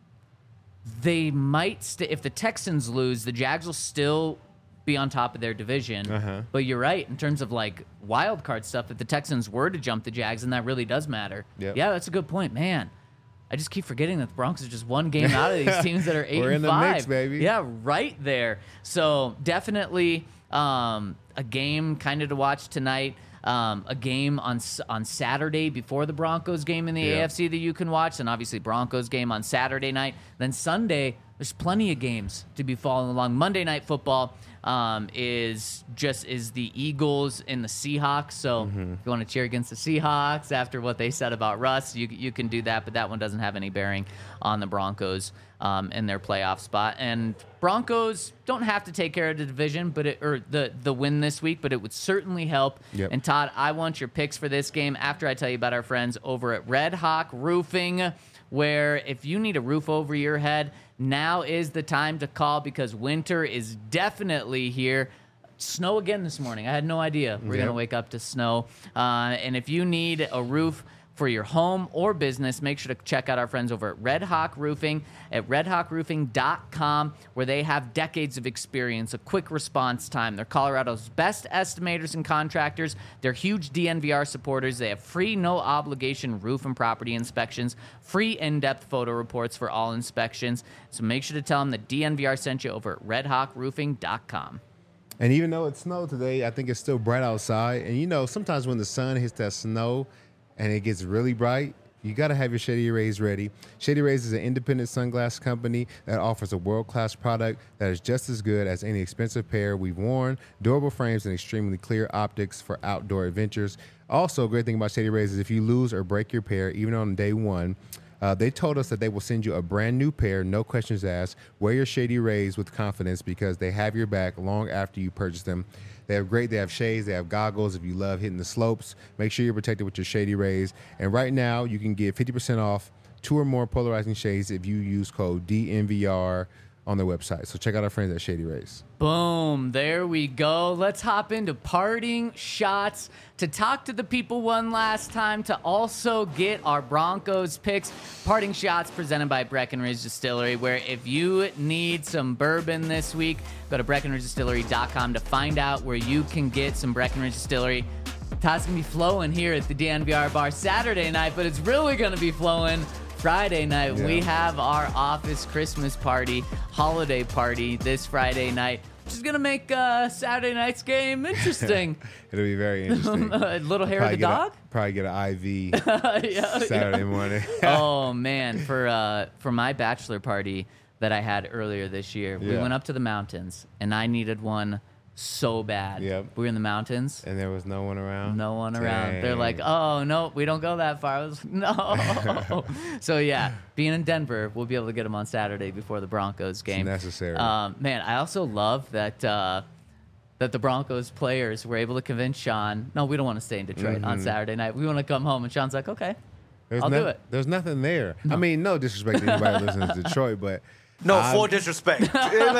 they might if the Texans lose, the Jags will still be on top of their division. But you're right in terms of like wild card stuff. If the Texans were to jump the Jags, then that really does matter. Yep. Yeah, that's a good point, man. I just keep forgetting that the Broncos are just one game out of these teams that are 8-5. We're in the mix, baby. Yeah, right there. So definitely a game kind of to watch tonight. A game on Saturday before the Broncos game in the AFC that you can watch, and obviously Broncos game on Saturday night. Then Sunday, there's plenty of games to be following along. Monday Night Football is the Eagles and the Seahawks. So if you want to cheer against the Seahawks after what they said about Russ, you can do that, but that one doesn't have any bearing on the Broncos in their playoff spot. And Broncos don't have to take care of the division, or the win this week, but it would certainly help. Yep. And Todd, I want your picks for this game after I tell you about our friends over at Red Hawk Roofing, where if you need a roof over your head, now is the time to call because winter is definitely here. Snow again this morning. I had no idea we're going to wake up to snow. And if you need a roof for your home or business, make sure to check out our friends over at Red Hawk Roofing at redhawkroofing.com, where they have decades of experience, a quick response time. They're Colorado's best estimators and contractors. They're huge DNVR supporters. They have free, no-obligation roof and property inspections, free in-depth photo reports for all inspections. So make sure to tell them that DNVR sent you over at redhawkroofing.com. And even though it snowed today, I think it's still bright outside. And you know, sometimes when the sun hits that snow and it gets really bright, you got to have your Shady Rays ready. Shady Rays is an independent sunglass company that offers a world-class product that is just as good as any expensive pair we've worn, durable frames, and extremely clear optics for outdoor adventures. Also, a great thing about Shady Rays is if you lose or break your pair, even on day one, They told us that they will send you a brand new pair, no questions asked. Wear your Shady Rays with confidence because they have your back long after you purchase them. They have shades, they have goggles. If you love hitting the slopes, make sure you're protected with your Shady Rays. And right now, you can get 50% off 2 or more polarizing shades if you use code DNVR on their website. So check out our friends at Shady Rays. Boom. There we go. Let's hop into parting shots to talk to the people one last time, to also get our Broncos picks. Parting shots presented by Breckenridge Distillery, where if you need some bourbon this week, go to BreckenridgeDistillery.com to find out where you can get some Breckenridge Distillery. Todd's going to be flowing here at the DNVR bar Saturday night, but it's really going to be flowing Friday night. Yeah. We have our office Christmas party, holiday party this Friday night, which is going to make Saturday night's game interesting. It'll be very interesting. Little hair of the dog? Probably get an IV Saturday morning. Oh, man. For my bachelor party that I had earlier this year, we went up to the mountains, and I needed one so bad. Yep. We were in the mountains. And there was no one around? No one around. They're like, oh, no, we don't go that far. I was like, no. So, yeah, being in Denver, we'll be able to get them on Saturday before the Broncos game. It's necessary. Man, I also love that that the Broncos players were able to convince Sean, no, we don't want to stay in Detroit on Saturday night. We want to come home. And Sean's like, okay, I'll do it. There's nothing there. I mean, no disrespect to anybody listening to Detroit, but No, full disrespect.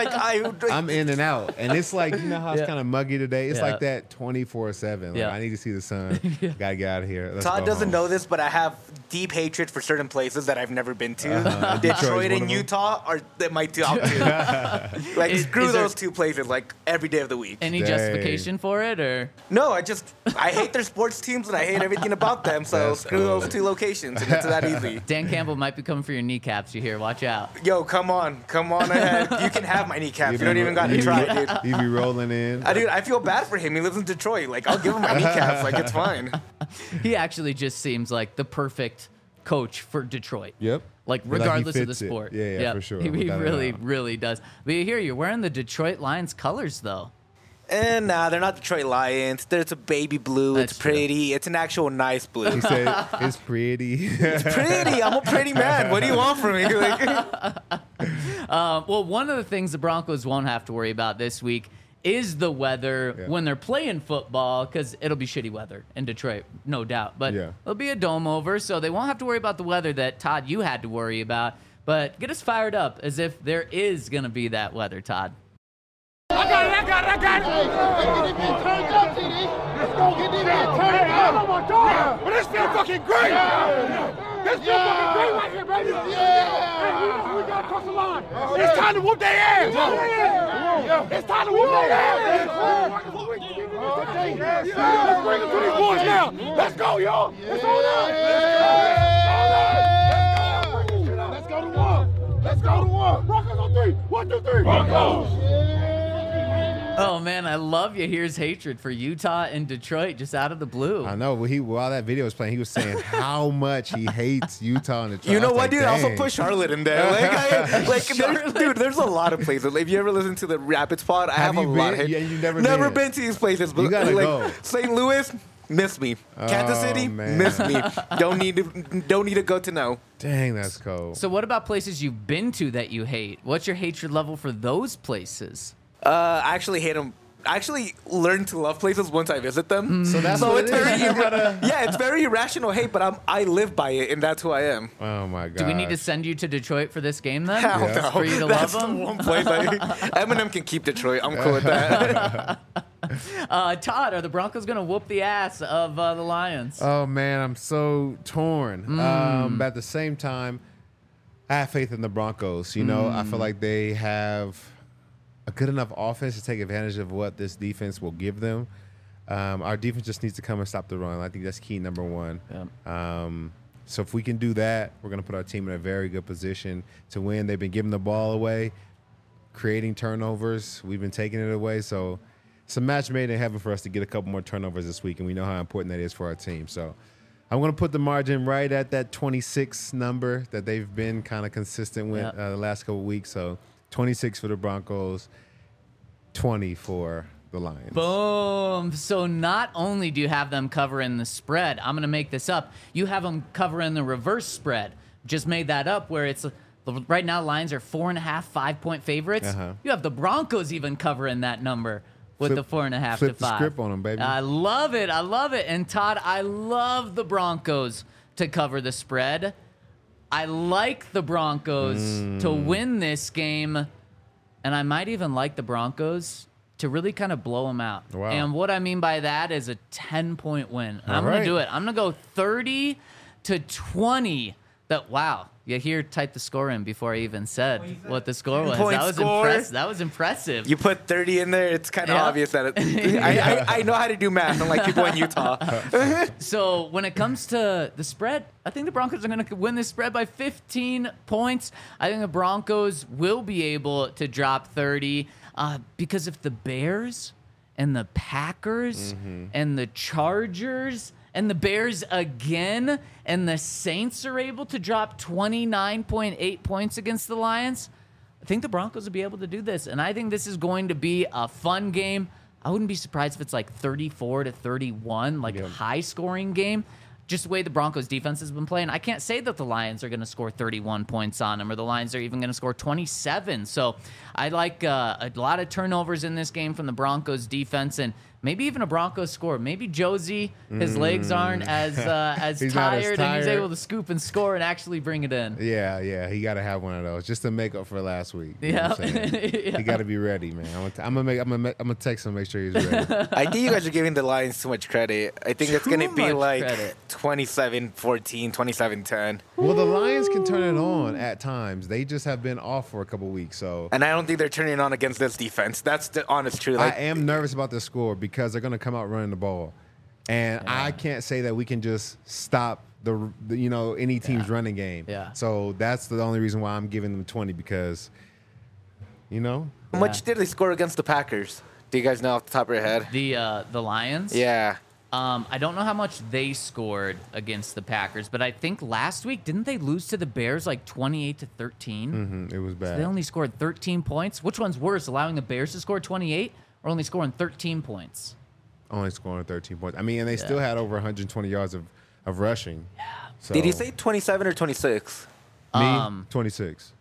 I'm in and out. And it's like, you know how it's kind of muggy today? It's like that 24/7. Like, I need to see the sun. Gotta get out of here. Let's Todd go doesn't home. know this, but I have deep hatred for certain places that I've never been to. Detroit and Utah are my top two. Like, screw those two places, like, every day of the week. Any justification for it, or? No, I hate their sports teams, and I hate everything about them, so That's screw cool. those two locations, and it's that easy. Dan Campbell might be coming for your kneecaps, you hear. Watch out. Yo, come on ahead. You can have my kneecaps. You don't even got to try, dude. You be rolling in. Dude, I feel bad for him. He lives in Detroit. Like, I'll give him my kneecaps. Like, it's fine. He actually just seems like the perfect coach for Detroit. Yep. Like, He regardless of the fits it. sport. Yeah, Yep. for sure. He Without a really, doubt. really does. But you hear, you're wearing the Detroit Lions colors, though. And nah, they're not Detroit Lions. It's a baby blue. That's It's pretty. It's an actual nice blue. He said, it's pretty. It's pretty. I'm a pretty man. What do you want from me? Like, Well, one of the things the Broncos won't have to worry about this week is the weather when they're playing football, because it'll be shitty weather in Detroit, no doubt. But there'll be a dome over, so they won't have to worry about the weather that, Todd, you had to worry about. But get us fired up as if there is going to be that weather, Todd. I got it. Turn it up, TD. Let's go get these men turned up. Oh my God. But this feels fucking great. This feels fucking great right here, baby. Hey, we got to cross the line. It's time to whoop their ass. It's time to whoop their ass. Let's bring them to these boys now. Let's go, y'all. It's on us. Let's go to one. Let's go to one. Broncos on three. 1, 2, 3. Broncos. Oh, man, I love you. Here's hatred for Utah and Detroit just out of the blue. I know. While that video was playing, he was saying how much he hates Utah and Detroit. you know I was what, like, dude? I also dang. put Charlotte in there. There's a lot of places. If you ever listen to the Rapids pod, I have a you lot. been? Yeah, you've never Never been. been to these places. But You gotta go. St. Louis, miss me. Kansas City, man. miss me. Don't need to go to know. Dang, that's cold. So what about places you've been to that you hate? What's your hatred level for those places? I actually hate them. I actually learn to love places once I visit them. So that's what it's it is. very yeah, it's very irrational hate, but I live by it, and that's who I am. Oh my God. Do we need to send you to Detroit for this game then? Hell no. For you to That's love the them? one place Eminem can keep Detroit. I'm cool with that. Todd, are the Broncos going to whoop the ass of the Lions? Oh man, I'm so torn. But at the same time, I have faith in the Broncos. You know, I feel like they have a good enough offense to take advantage of what this defense will give them. Our defense just needs to come and stop the run. I think that's key number one. So if we can do that, we're going to put our team in a very good position to win. They've been giving the ball away, creating turnovers. We've been taking it away. So it's a match made in heaven for us to get a couple more turnovers this week, and we know how important that is for our team. So I'm going to put the margin right at that 26 number that they've been kind of consistent with the last couple of weeks. So 26 for the Broncos, 20 for the Lions. Boom. So not only do you have them covering the spread, I'm going to make this up, you have them covering the reverse spread. just made that up where it's right now Lions are 4.5, 5-point favorites. You have the Broncos even covering that number with the 4.5 to 5. Flip the script on them, baby. I love it. And Todd, I love the Broncos to cover the spread. I like the Broncos to win this game, and I might even like the Broncos to really kind of blow them out. Wow. And what I mean by that is a 10-point win. I'm going to do it. I'm going to go 30-20. You hear type the score in before I even said what the score was. That was impressive. You put 30 in there, it's kind of obvious that I know how to do math, unlike people in Utah. So when it comes to the spread, I think the Broncos are going to win this spread by 15 points. I think the Broncos will be able to drop 30 because if the Bears and the Packers and the Chargers and the Bears again, and the Saints are able to drop 29.8 points against the Lions, I think the Broncos will be able to do this. And I think this is going to be a fun game. I wouldn't be surprised if it's like 34-31, like a high-scoring game. Just the way the Broncos defense has been playing, I can't say that the Lions are going to score 31 points on them or the Lions are even going to score 27. So I like a lot of turnovers in this game from the Broncos defense and maybe even a Broncos score. Maybe Josie, his legs aren't as tired and he's able to scoop and score and actually bring it in. Yeah. He got to have one of those just to make up for last week. You know what I'm saying? He got to be ready, man. I'm gonna text him, make sure he's ready. I think you guys are giving the Lions too much credit. I think it's gonna be like 27-14, 27-10. Well, the Lions can turn it on at times. They just have been off for a couple weeks, so. And I don't think they're turning it on against this defense. That's the honest truth. I am nervous about the score because they're going to come out running the ball. And I can't say that we can just stop any team's running game. Yeah. So that's the only reason why I'm giving them 20 because, How much did they score against the Packers? Do you guys know off the top of your head? The Lions? Yeah. I don't know how much they scored against the Packers, but I think last week, didn't they lose to the Bears like 28-13? It was bad. So they only scored 13 points. Which one's worse, allowing the Bears to score 28 or only scoring 13 points? Only scoring 13 points. I mean, and they still had over 120 yards of rushing. Yeah. So. Did you say 27 or 26? Me, 26.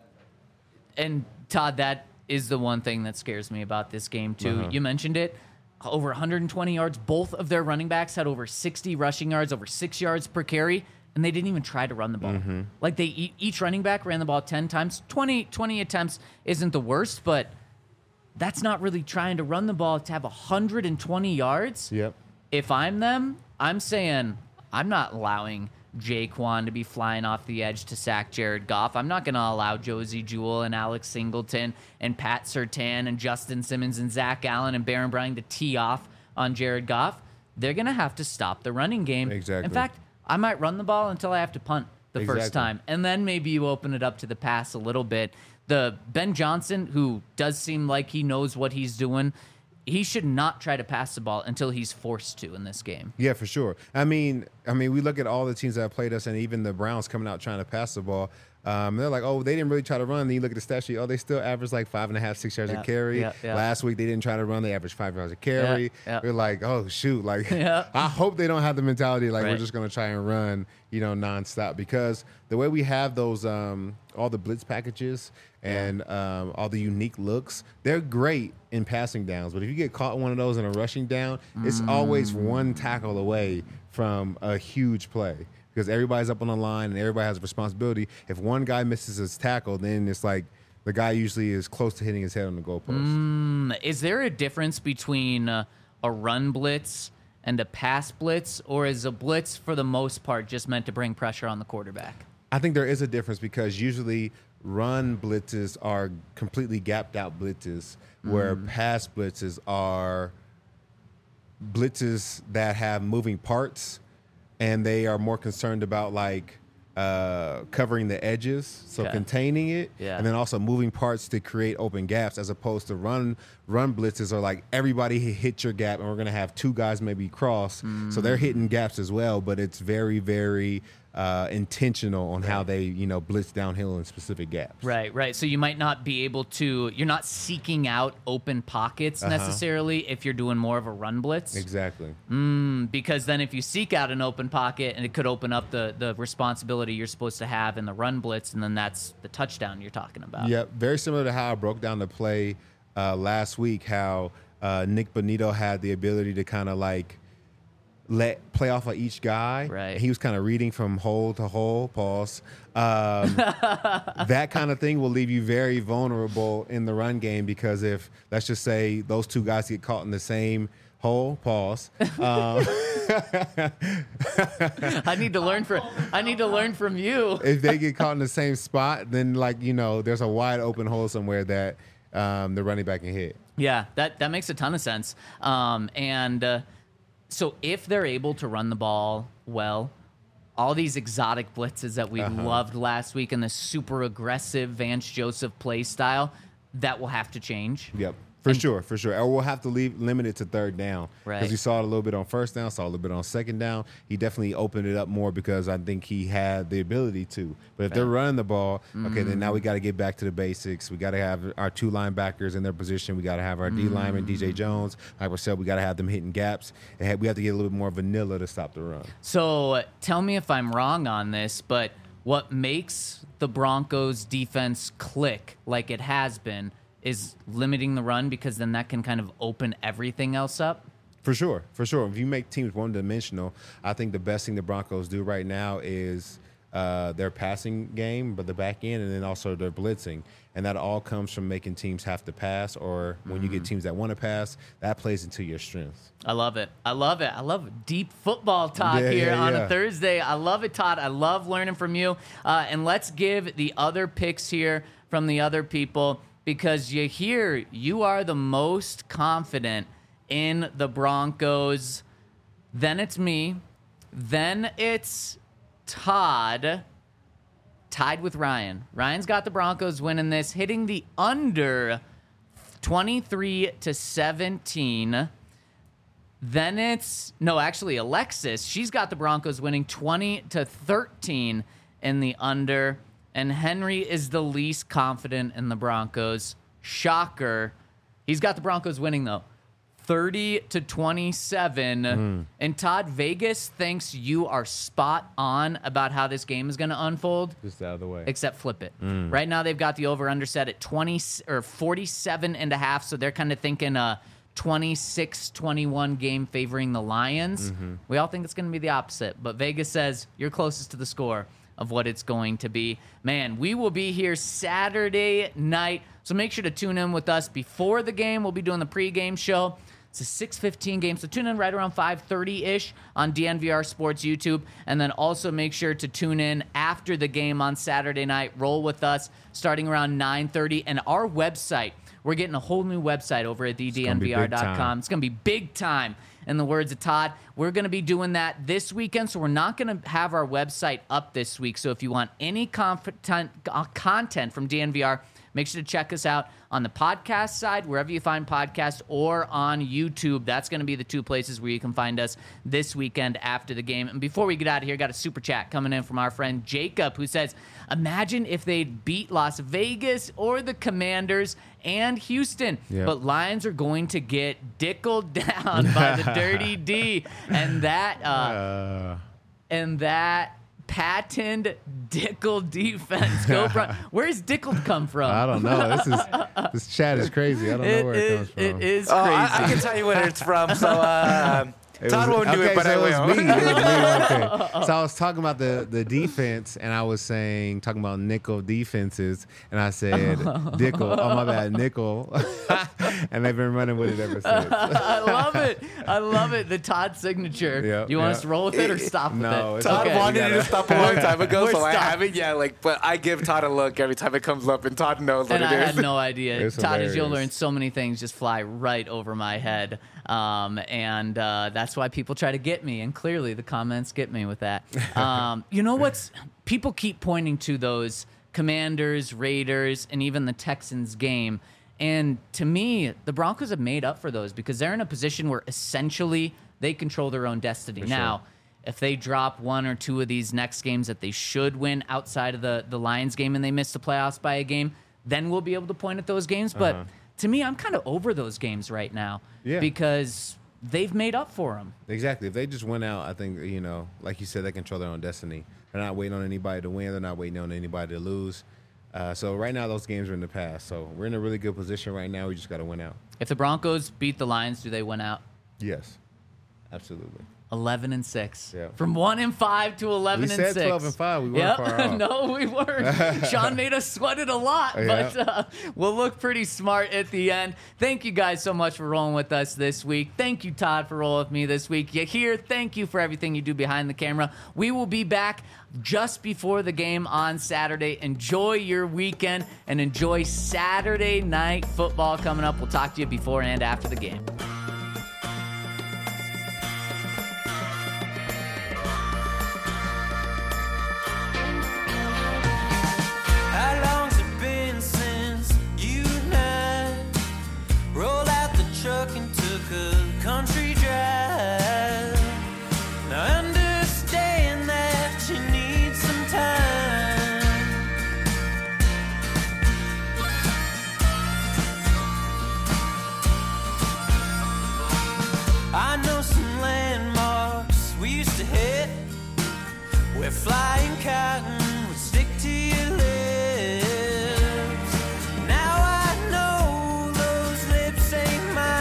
And Todd, that is the one thing that scares me about this game too. You mentioned it. Over 120 yards. Both of their running backs had over 60 rushing yards, over 6 yards per carry, and they didn't even try to run the ball. Like each running back ran the ball 10 times. 20 attempts isn't the worst, but that's not really trying to run the ball to have 120 yards. Yep. If I'm them, I'm saying I'm not allowing Jaquan to be flying off the edge to sack Jared Goff. I'm not going to allow Josie Jewell and Alex Singleton and Pat Surtain and Justin Simmons and Zach Allen and Baron Bryan to tee off on Jared Goff. They're going to have to stop the running game. Exactly. In fact, I might run the ball until I have to punt the first time. And then maybe you open it up to the pass a little bit. The Ben Johnson, who does seem like he knows what he's doing, he should not try to pass the ball until he's forced to in this game. Yeah, for sure. I mean, we look at all the teams that have played us, and even the Browns coming out trying to pass the ball. They're like, they didn't really try to run. Then you look at the stat sheet. They still average like 5.5, 6 yards a carry. Last week they didn't try to run. They averaged 5 yards a carry. We're like, oh shoot! Like, I hope they don't have the mentality like we're just gonna try and run, nonstop. Because the way we have those, all the blitz packages and all the unique looks, they're great in passing downs. But if you get caught one of those in a rushing down, it's always one tackle away from a huge play. Because everybody's up on the line and everybody has a responsibility. If one guy misses his tackle, then it's like the guy usually is close to hitting his head on the goalpost. Is there a difference between a run blitz and a pass blitz, or is a blitz for the most part just meant to bring pressure on the quarterback? I think there is a difference because usually run blitzes are completely gapped out blitzes, where pass blitzes are blitzes that have moving parts. And they are more concerned about covering the edges, so containing it, and then also moving parts to create open gaps, as opposed to run blitzes are like everybody hit your gap, and we're gonna have two guys maybe cross, so they're hitting gaps as well. But it's very, very intentional on how they, blitz downhill in specific gaps. Right. So you might not be able to. You're not seeking out open pockets necessarily if you're doing more of a run blitz. Exactly. Because then if you seek out an open pocket, and it could open up the responsibility you're supposed to have in the run blitz, and then that's the touchdown you're talking about. Yep. Very similar to how I broke down the play last week. How Nick Bonito had the ability to kind of like play off of each guy. Right. He was kind of reading from hole to hole. Pause. That kind of thing will leave you very vulnerable in the run game, because if, let's just say, those two guys get caught in the same hole. Pause. I need to learn from you. If they get caught in the same spot, then there's a wide open hole somewhere that the running back can hit. Yeah, that makes a ton of sense. So if they're able to run the ball well, all these exotic blitzes that we loved last week and the super aggressive Vance Joseph play style, that will have to change. Yep. For sure. Or we'll have to limit it to third down. Right. Because we saw it a little bit on first down, saw a little bit on second down. He definitely opened it up more because I think he had the ability to. But if they're running the ball, okay, then now we got to get back to the basics. We got to have our two linebackers in their position. We got to have our D lineman, DJ Jones. Like I said, we got to have them hitting gaps. And we have to get a little bit more vanilla to stop the run. So tell me if I'm wrong on this, but what makes the Broncos defense click like it has been is limiting the run, because then that can kind of open everything else up? For sure. If you make teams one-dimensional, I think the best thing the Broncos do right now is their passing game, but the back end, and then also their blitzing. And that all comes from making teams have to pass, or when you get teams that want to pass, that plays into your strengths. I love it. I love deep football talk here on a Thursday. I love it, Todd. I love learning from you. And let's give the other picks here from the other people, because you are the most confident in the Broncos. Then it's me. Then it's Todd, tied with Ryan. Ryan's got the Broncos winning this, hitting the under 23-17. Then it's, Alexis. She's got the Broncos winning 20-13 in the under. And Henry is the least confident in the Broncos. Shocker. He's got the Broncos winning, though, 30-27. And Todd, Vegas thinks you are spot on about how this game is going to unfold. Just out of the way. Except flip it. Right now they've got the over-under set at 47.5, so they're kind of thinking a 26-21 game favoring the Lions. We all think it's going to be the opposite, but Vegas says you're closest to the score of what it's going to be. Man, we will be here Saturday night, so make sure to tune in with us before the game. We'll be doing the pregame show. It's a 6:15 game, so tune in right around 5:30-ish on DNVR Sports YouTube, and then also make sure to tune in after the game on Saturday night. Roll with us starting around 9:30, and our website. We're getting a whole new website over at thednvr.com. It's going to be big time. In the words of Todd, we're going to be doing that this weekend, so we're not going to have our website up this week. So if you want any content from DNVR, make sure to check us out on the podcast side, wherever you find podcasts, or on YouTube. That's going to be the two places where you can find us this weekend after the game. And before we get out of here, got a super chat coming in from our friend Jacob, who says, imagine if they'd beat Las Vegas or the Commanders and Houston, but Lions are going to get dickled down by the Dirty D. And that patented Dickel defense. Where's Dickel come from? I don't know. This chat is crazy. I don't know where it comes from. It is crazy. I can tell you where it's from. So Todd won't do it, but I will. It was me. Okay. So I was talking about the defense, and I was talking about nickel defenses, and I said Dickel. Oh, my bad, nickel. And they've been running with it ever since. I love it. The Todd signature. Yep, you want us to roll with it or stop with it? Todd wanted it to stop a long time ago, so I haven't yet. But I give Todd a look every time it comes up, and Todd knows what it is. And I had no idea. It's Todd, as you'll hilarious. learn, so many things just fly right over my head. And that's why people try to get me, and clearly the comments get me with that. You know people keep pointing to those Commanders, Raiders, and even the Texans game, and to me, the Broncos have made up for those because they're in a position where essentially they control their own destiny. Now, if they drop one or two of these next games that they should win outside of the Lions game and they miss the playoffs by a game, then we'll be able to point at those games. But to me, I'm kind of over those games right now because they've made up for them. Exactly. If they just went out, I think, like you said, they control their own destiny. They're not waiting on anybody to win. They're not waiting on anybody to lose. So right now, those games are in the past. So we're in a really good position right now. We just got to win out. If the Broncos beat the Lions, do they win out? Yes, absolutely. 11-6. Yeah. From 1-5 to 11-6. We said 12-5. We weren't far off. No, we weren't. Sean made us sweat it a lot, but we'll look pretty smart at the end. Thank you guys so much for rolling with us this week. Thank you, Todd, for rolling with me this week. Yahir, thank you for everything you do behind the camera. We will be back just before the game on Saturday. Enjoy your weekend and enjoy Saturday night football coming up. We'll talk to you before and after the game. And took a country drive. Now understand that you need some time. I know some landmarks we used to hit where flying cotton would stick to your lips. Now I know those lips ain't mine.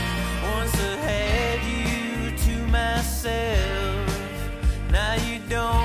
Now you don't